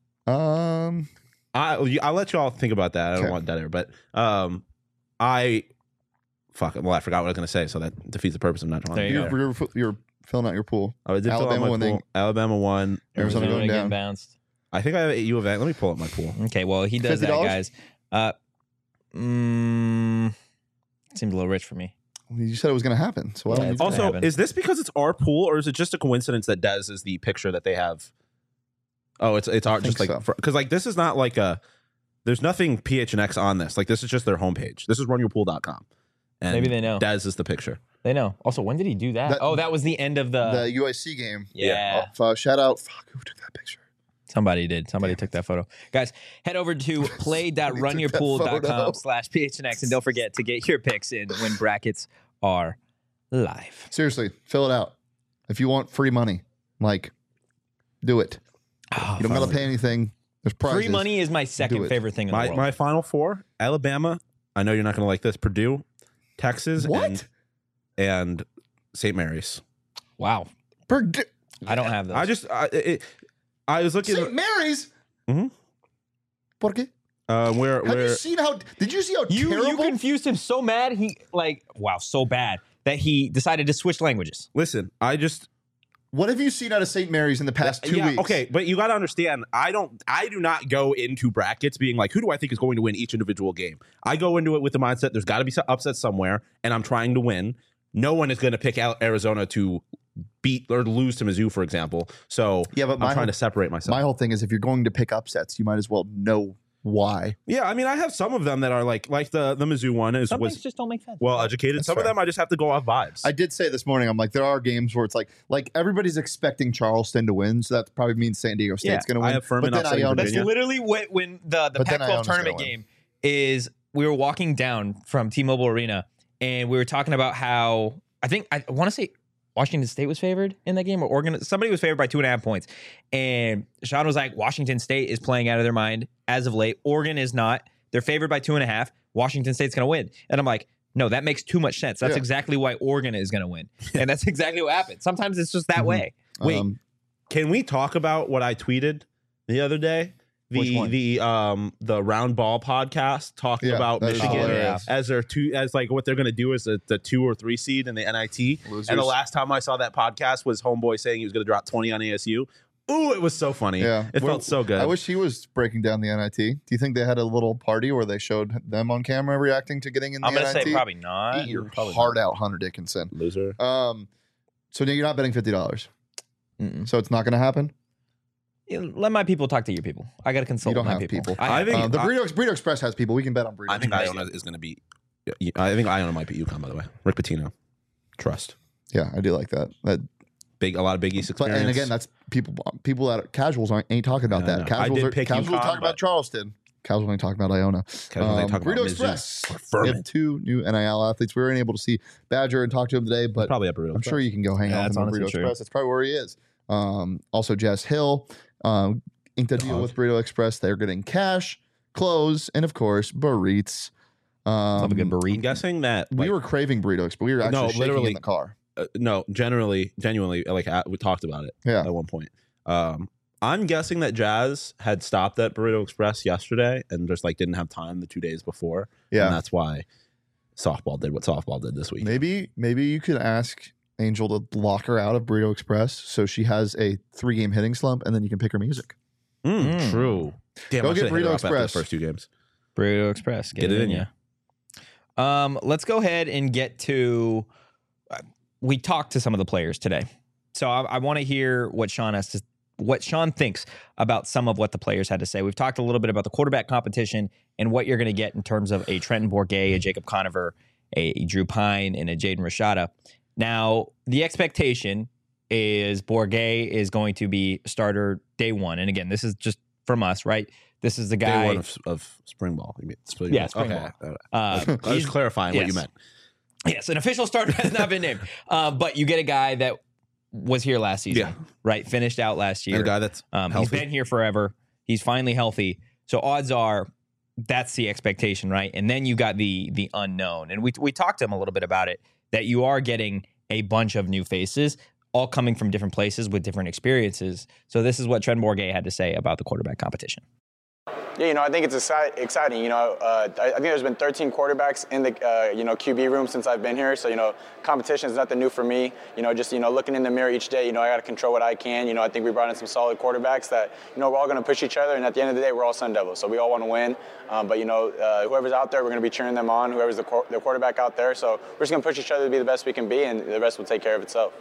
I'll let you all think about that. I don't Okay. want dead air, but I forgot what I was going to say, so that defeats the purpose of not trying. There you go. You're filling out your pool. I did fill out Alabama my winning. pool. Alabama won. Arizona going getting down. bounced. I think I have a U of A. Let me pull up my pool. Okay. Well, he does that, $50? guys. Seems a little rich for me. You said it was going to happen, so why Yeah, don't you? it's gonna Also, happen. is this because it's our pool, or is it just a coincidence that Dez is the picture that they have? Oh, it's our think just like so. because like this is not like a. There's nothing PHNX on this. Like this is just their homepage. This is runyourpool.com. And Maybe they know. Dez is the picture. They know. Also, when did he do that? That- that was the end of the. The UIC game. yeah. Shout out. Fuck, who took that picture? Somebody did. Somebody took that photo. Guys, head over to play.runyourpool.com/PHNX and don't forget to get your picks in when brackets are live. Seriously, fill it out. If you want free money, like, do it. Oh, You don't got to pay anything. There's prizes. free money is my second it. favorite thing in the world. My final four: Alabama. I know you're not going to like this. Purdue, Texas, What? and St. Mary's. Wow. Purdue. I don't have those. I was looking. St. Mary's. Por qué? Have you seen how? Did you see how terrible? You confused him so mad. So bad that he decided to switch languages. Listen, What have you seen out of St. Mary's in the past 2 weeks? Okay, but you got to understand, I do not go into brackets being like, who do I think is going to win each individual game? I go into it with the mindset there's got to be some upset somewhere, and I'm trying to win. No one is going to pick out Arizona to beat or lose to Mizzou, for example. So yeah, but I'm trying to separate myself. My whole thing is if you're going to pick upsets, you might as well know why. Yeah, I mean, I have some of them that are like the Mizzou one Some things just don't make sense. Well educated. That's some fair. of them I just have to go off vibes. I did say this morning, I'm like, there are games where it's like everybody's expecting Charleston to win, so that probably means San Diego State's going to win. I have Furman but then upsetting Iona, That's literally when the Pac-12 tournament game is. We were walking down from T-Mobile Arena, and we were talking about how I want to say Washington State was favored in that game, or Oregon. Somebody was favored by 2.5 points. And Sean was like, Washington State is playing out of their mind as of late. Oregon is not. They're favored by 2.5. Washington State's going to win. And I'm like, no, that makes too much sense. That's exactly why Oregon is going to win. And that's exactly what happened. Sometimes it's just that way. Wait, can we talk about what I tweeted the other day? The Round Ball podcast talking about Michigan as what they're going to do as the 2 or 3 seed in the NIT. Losers. And the last time I saw that podcast was Homeboy saying he was going to drop 20 on ASU. Ooh, it was so funny. Yeah, it felt so good. I wish he was breaking down the NIT. Do you think they had a little party where they showed them on camera reacting to getting in the NIT? I'm going to say probably not. Eat your heart out, Hunter Dickinson. Loser. So you're not betting $50. So it's not going to happen? Let my people talk to your people. I got to consult my people. I think the Burrito Express has people. We can bet on Burrito. I think Iona is going to beat. I think Iona might beat UConn. By the way, Rick Pitino, trust. Yeah, I do like that. A lot of Big East experience. And again, that's people that are casuals ain't talking about that. Casuals are talking about Charleston. Casuals ain't talking about Iona. Burrito Express. We have 2 new NIL athletes. We weren't able to see Badger and talk to him today, but probably at Burrito. I'm sure you can go hang out with him at Burrito Express. That's probably where he is. Also, Jess Hill inked a deal with Burrito Express. They're getting cash, clothes, and of course, burritos. Love a good burrito. I'm guessing that we were craving Burrito Express. We were actually shaking in the car. Genuinely, we talked about it at one point. I'm guessing that Jazz had stopped at Burrito Express yesterday and just didn't have time the 2 days before. Yeah, and that's why softball did what softball did this week. Maybe you could ask Angel to lock her out of Burrito Express so she has a 3-game hitting slump, and then you can pick her music. True. Damn, go get Burrito Express. The first 2 games. Burrito Express. Get it in you. Let's go ahead and get to. We talked to some of the players today, so I want to hear what Sean thinks about some of what the players had to say. We've talked a little bit about the quarterback competition and what you're going to get in terms of a Trenton Bourguet, a Jacob Conover, a Drew Pine, and a Jaden Rashada. Now, the expectation is Bourguet is going to be starter day 1. And again, this is just from us, right? This is the guy. Day 1 of spring ball. You mean spring ball. I was clarifying what you meant. Yes, an official starter has not been named. But you get a guy that was here last season, right? Finished out last year. And a guy that's he's been here forever. He's finally healthy. So odds are that's the expectation, right? And then you got the unknown. And we talked to him a little bit about it, that you are getting a bunch of new faces, all coming from different places with different experiences. So this is what Trenton Bourguet had to say about the quarterback competition. Yeah, I think it's exciting. I think there's been 13 quarterbacks in the, QB room since I've been here. So, competition is nothing new for me. Just looking in the mirror each day, I got to control what I can. I think we brought in some solid quarterbacks that, we're all going to push each other. And at the end of the day, we're all Sun Devils. So we all want to win. But whoever's out there, we're going to be cheering them on, whoever's the quarterback out there. So we're just going to push each other to be the best we can be, and the rest will take care of itself.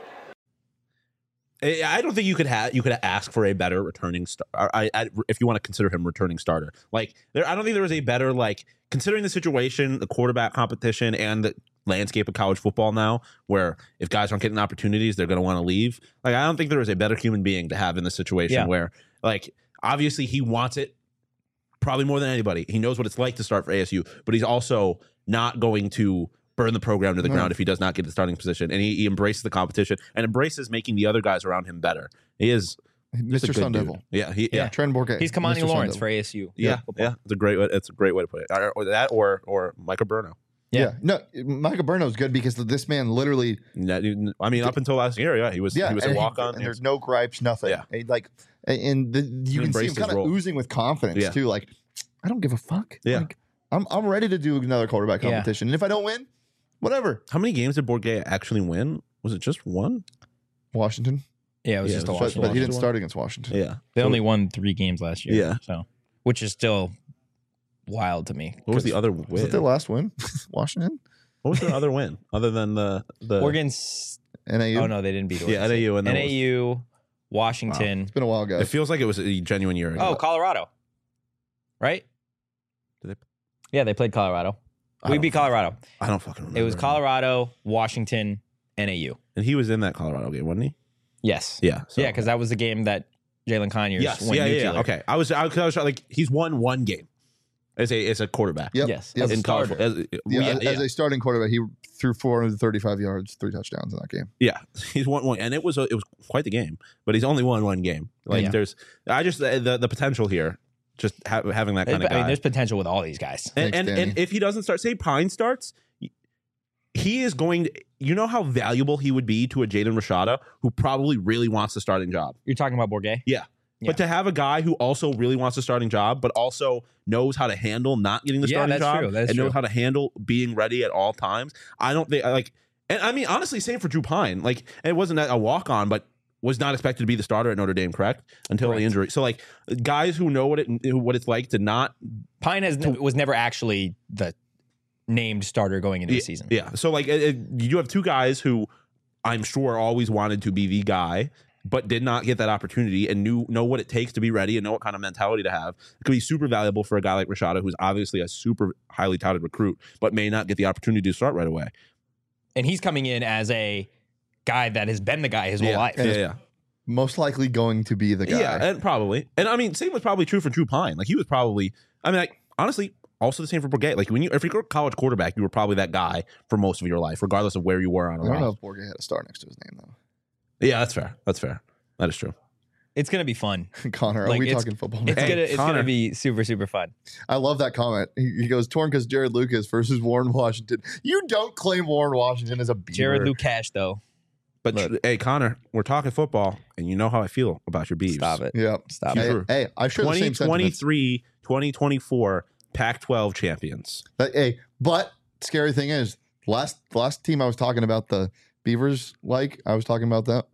I don't think you could ask for a better returning star. If you want to consider him returning starter, I don't think there was a better, considering the situation, the quarterback competition, and the landscape of college football now, where if guys aren't getting opportunities, they're going to want to leave. I don't think there was a better human being to have in this situation where, obviously he wants it probably more than anybody. He knows what it's like to start for ASU, but he's also not going to burn the program to the ground if he does not get the starting position. And he embraces the competition and embraces making the other guys around him better. He is Mr. Sun Devil. Yeah. Trenton Bourguet. He's Kamani Lawrence for ASU. Yeah. It's a great way to put it. Or that or Michael Bruno. Yeah. No, Micah Burno's good because this man literally. I mean, up until last year, yeah, he was a and walk on. And there's no gripes, nothing. Yeah. You can see him embraced his kind of role. oozing with confidence Yeah. too. Like, I don't give a fuck. Yeah. Like, I'm ready to do another quarterback Yeah. competition. And if I don't win, whatever. How many games did Bourget actually win? Was it just one? Washington. Yeah, it was Yeah, just a it was Washington. But he didn't Washington. start against Washington. Yeah. They only won 3 games last year. Yeah. So, which is still wild to me. What was the other Was win? it their last win? Washington? What was their other win other than the Oregon's. NAU? Oh no, they didn't beat Oregon. Yeah, State. NAU and then NAU, Washington. It's been a while, guys. It feels like it was a genuine year ago. Oh, Colorado. Right? Did they- Yeah, they played Colorado. I We don't beat Colorado. I don't fucking remember. It was Colorado, Washington, NAU. And he was in that Colorado game, wasn't he? Yes. Yeah. So. Yeah, because that was the game that Jalen Conyers Yes. went Yeah, nuclear. yeah. Okay. I was like, he's won one game as a quarterback. Yep. Yes. Yep. As a In college. starter. As a starting quarterback, he threw 435 yards, 3 touchdowns in that game. Yeah, he's won one, and it was quite the game. But he's only won one game. Like Yeah. there's, the potential here, just having that kind of I guy. mean, there's potential with all these guys. and Thanks, Danny. and if he doesn't start, say Pine starts, he is going to. You know how valuable he would be to a Jaden Rashada who probably really wants the starting job. You're talking about Bourget? Yeah. But to have a guy who also really wants the starting job, but also knows how to handle not getting the Yeah, starting that's job, true. That's and knows true. how to handle being ready at all times. I don't think like, and I mean honestly, same for Drew Pine. Like it wasn't a walk on, but was not expected to be the starter at Notre Dame, correct? Until the Correct. injury. So like guys who know what it's like to not. Pine was never actually the named starter going into the season. Yeah. So like you have two guys who I'm sure always wanted to be the guy, but did not get that opportunity and know what it takes to be ready and know what kind of mentality to have. It could be super valuable for a guy like Rashada, who's obviously a super highly touted recruit, but may not get the opportunity to start right away. And he's coming in as a guy that has been the guy his whole life. Yeah. Most likely going to be the guy. Yeah, and probably. And I mean, same was probably true for Drew Pine. Like he was probably, I mean, like honestly, also the same for Bourget. Like if you're a college quarterback, you were probably that guy for most of your life, regardless of where you were on a I don't know roster. if Bourget had a star next to his name, though. Yeah, that's fair. That's fair. That is true. It's gonna be fun. Connor, are Like, we it's- talking football It's now? Hey, gonna Connor. be super, super fun. I love that comment. He goes, torn because Jared Lucas versus Warren Washington. You don't claim Warren Washington as a Beaver. Jared Lukash, though. But Look. hey, Connor, we're talking football, and you know how I feel about your Beavs. Stop it. Yeah. Stop Hey, it. True. Hey, I share the same sentiments. 2023, 2024 Pac-12 champions. But scary thing is, last team I was talking about the Beavers, I was talking about that,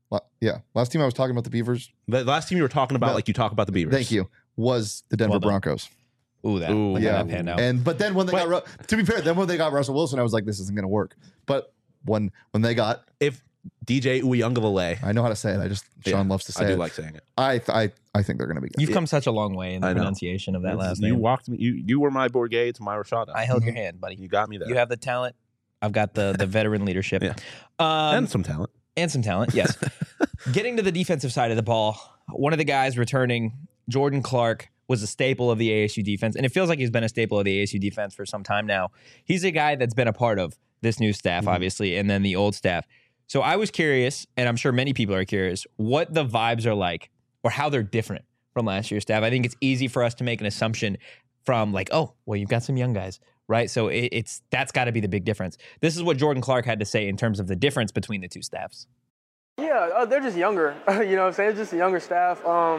last team I was talking about the Beavers, The last team you were talking about, No. like you talk about the Beavers. thank you, was the Denver Well done. Broncos. Ooh, that. Ooh, Look yeah. at that panned out. But then when they to be fair, then when they got Russell Wilson, I was like, this isn't going to work. But when they got, If DJ Uyunglele, I know how to say it. Sean loves to say I do it. like saying it. I think they're going to be good. You've come such a long way in the I know. pronunciation of that last You name. walked me. You were my Bourget to my Rashada. I held your hand, buddy. You got me there. You have the talent. I've got the veteran leadership. Yeah. And and some talent. some talent, yes. Getting to the defensive side of the ball, one of the guys returning, Jordan Clark, was a staple of the ASU defense. And it feels like he's been a staple of the ASU defense for some time now. He's a guy that's been a part of this new staff, obviously, and then the old staff. So I was curious, and I'm sure many people are curious, what the vibes are like or how they're different from last year's staff. I think it's easy for us to make an assumption from like, oh, well, you've got some young guys, right? So that's got to be the big difference. This is what Jordan Clark had to say in terms of the difference between the two staffs. Yeah, they're just younger. You know what I'm saying? It's just a younger staff.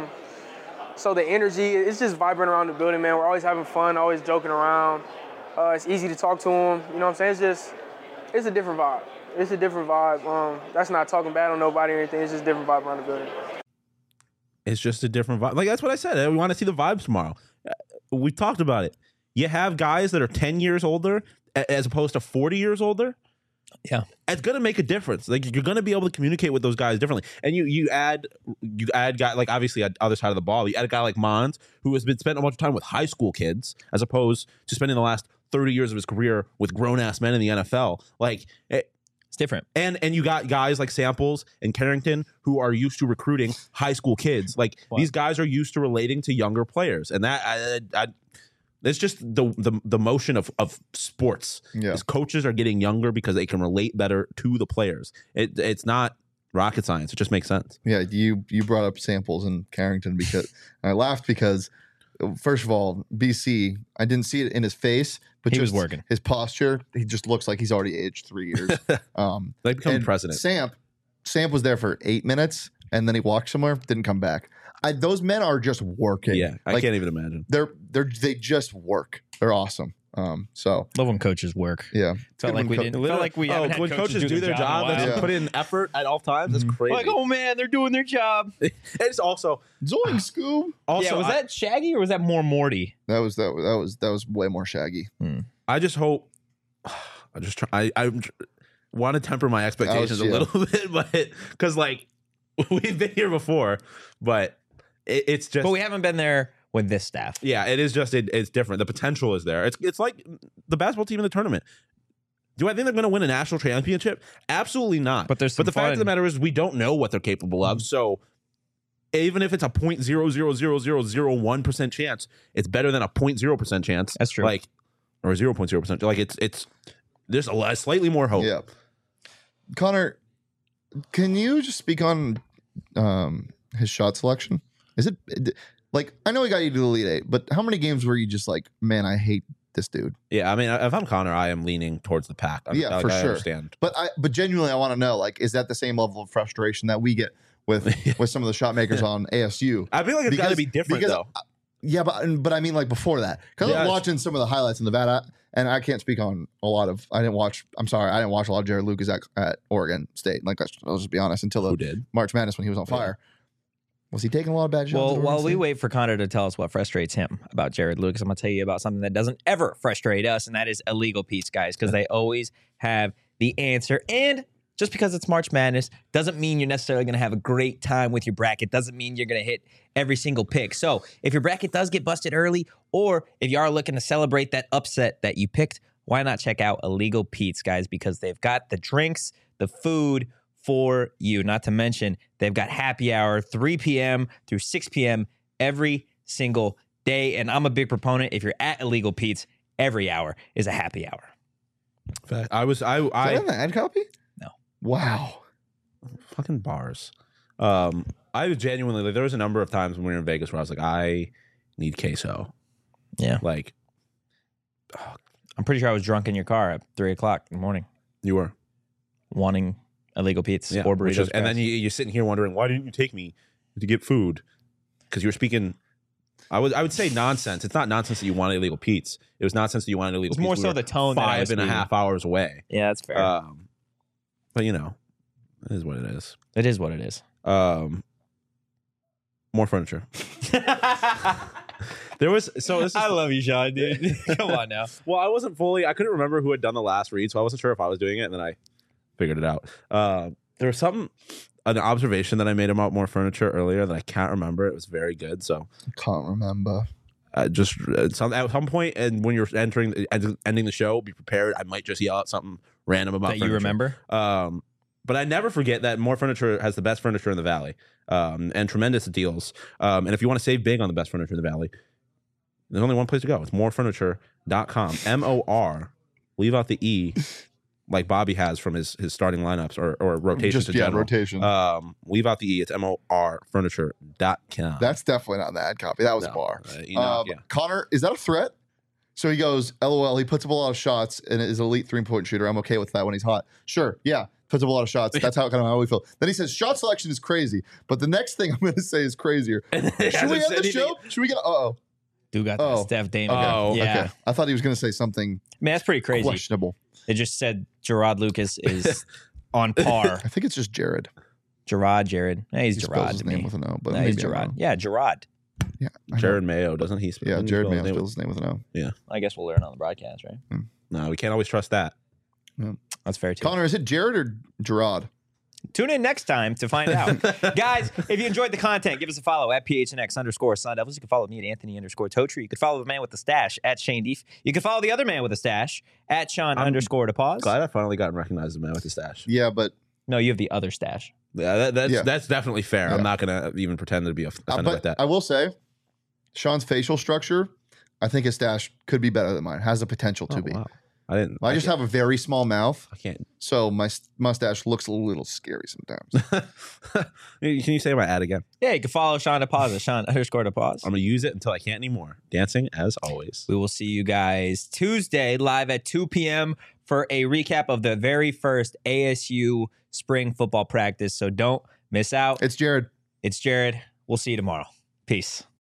So the energy, it's just vibrant around the building, man. We're always having fun, always joking around. It's easy to talk to them. You know what I'm saying? It's a different vibe. It's a different vibe. That's not talking bad on nobody or anything. It's just a different vibe around the building. It's just a different vibe. Like that's what I said. We want to see the vibes tomorrow. We talked about it. You have guys that are 10 years older as opposed to 40 years older. Yeah. It's going to make a difference. Like you're going to be able to communicate with those guys differently. And you add guy like obviously on the other side of the ball. You add a guy like Mons who has been spending a bunch of time with high school kids as opposed to spending the last 30 years of his career with grown ass men in the NFL. Like It's different. and you got guys like Samples and Carrington who are used to recruiting high school kids. Like these guys are used to relating to younger players, and that it's just the motion of sports. Yeah. Is coaches are getting younger because they can relate better to the players. It's not rocket science. It just makes sense. Yeah, you brought up Samples and Carrington because I laughed because first of all, BC, I didn't see it in his face, but He was just working. his posture. He just looks like he's already aged 3 years. Like becoming and president. Samp was there for 8 minutes, and then he walked somewhere, didn't come back. Those men are just working. Yeah, I can't even imagine. They just work. They're awesome. So Love when coaches work. yeah, Felt like we didn't. Felt like we haven't had when coaches do their job and in a they while. put in effort at all times, that's crazy. Like, oh man, they're doing their job. It's also Zoink Scoob. also Was that Shaggy or was that more Morty? That was way more Shaggy. I just hope. I want to temper my expectations a little bit, but because like we've been here before, but it's just. But we haven't been there with this staff. Yeah, it is just it's different. The potential is there. It's like the basketball team in the tournament. Do I think they're going to win a national championship? Absolutely not. But there's the fact of the matter is we don't know what they're capable of. So even if it's a 0.0000001% chance, it's better than a 0.0% chance. That's true. Like or 0.0%. Like it's there's slightly more hope. Yeah. Connor, can you just speak on his shot selection? Is it like I know he got you to the Elite Eight, but how many games were you just like, man, I hate this dude? Yeah, I mean, if I'm Connor, I am leaning towards the pack. For I sure. understand. But genuinely, I want to know, like, is that the same level of frustration that we get with some of the shot makers on ASU? I feel like it's got to be different though. Yeah, but I mean, like before that, because I was watching some of the highlights in Nevada, and I can't speak on a lot of. I didn't watch a lot of Jared Lucas at Oregon State. Like, I'll just be honest, until the March Madness when he was on fire. Was he taking a lot of bad shots? Well, while we wait for Connor to tell us what frustrates him about Jared Lucas, I'm going to tell you about something that doesn't ever frustrate us, and that is Illegal Pete's, guys, because they always have the answer. And just because it's March Madness doesn't mean you're necessarily going to have a great time with your bracket. Doesn't mean you're going to hit every single pick. So if your bracket does get busted early, or if you are looking to celebrate that upset that you picked, why not check out Illegal Pete's, guys, because they've got the drinks, the food for you. Not to mention, they've got happy hour 3 p.m. through 6 p.m. every single day. And I'm a big proponent. If you're at Illegal Pete's, every hour is a happy hour. Is that in the ad copy? No. Wow. Fucking bars. I was genuinely like, there was a number of times when we were in Vegas where I was like, I need queso. Yeah. Like, I'm pretty sure I was drunk in your car at 3 o'clock in the morning, you were wanting Illegal Pete's or burritos. And then you're sitting here wondering, why didn't you take me to get food? Because you were speaking. I would say nonsense. It's not nonsense that you wanted Illegal Pete's. It was nonsense that you wanted Illegal Pete's. More so the tone. 5.5 hours away. Yeah, that's fair. But you know, it is what it is. It is what it is. More furniture. There was I love you, Sean, dude. Come on now. Well, I couldn't remember who had done the last read, so I wasn't sure if I was doing it, and then I figured it out. There was an observation that I made about More Furniture earlier that I can't remember. It was very good, so Can't remember. just at some point, and when you're ending the show, be prepared. I might just yell out something random about That furniture. you remember? But I never forget that More Furniture has the best furniture in the Valley, and tremendous deals. And if you want to save big on the best furniture in the Valley, there's only one place to go. It's morefurniture.com. MOR. Leave out the E, like Bobby has from his starting lineups or rotations. Rotation. Leave out the E. It's morfurniture.com. That's definitely not in the ad copy. That was a bar. Yeah. Connor, is that a threat? So he goes, LOL, he puts up a lot of shots and is an elite 3-point shooter. I'm okay with that when he's hot. Sure, yeah, puts up a lot of shots. That's how we feel. Then he says, shot selection is crazy. But the next thing I'm going to say is crazier. Should we end the show? Should we get, Dude got that Steph Dame. Oh, yeah. Okay. I thought he was going to say something Man, that's pretty crazy. questionable. It just said Gerard Lucas is on par. I think it's just Jared. Jared. Hey, he's He spells Gerard his to name me. with an O, but No, maybe he's I'm Gerard. wrong. Yeah, Gerard. Yeah, I know. Jared Mayo, doesn't he? Yeah, Jared Mayo Mayo spells his name with an O. I guess we'll learn on the broadcast, right? No, we can't always trust that. That's fair, too. Connor, is it Jared or Gerard? Tune in next time to find out. Guys, if you enjoyed the content, give us a follow at PHNX_Sun Devils. You can follow me at Anthony_Totri. You can follow the man with the stash at Shane Deef. You can follow the other man with the stash at Sean_DePause. Glad I finally gotten recognized as a man with the stash. Yeah, but No, you have the other stash. Yeah, that's definitely fair. Yeah. I'm not going to even pretend to be offended like that. I will say, Sean's facial structure, I think his stash could be better than mine. Has the potential to be. Wow. I didn't. I just have a very small mouth, I can't. so my mustache looks a little scary sometimes. Can you say my ad again? Yeah, you can follow Sean DePause, Sean_DePause. I'm gonna use it until I can't anymore. Dancing as always. We will see you guys Tuesday live at 2 p.m. for a recap of the very first ASU spring football practice. So don't miss out. It's Jared. It's Jared. We'll see you tomorrow. Peace.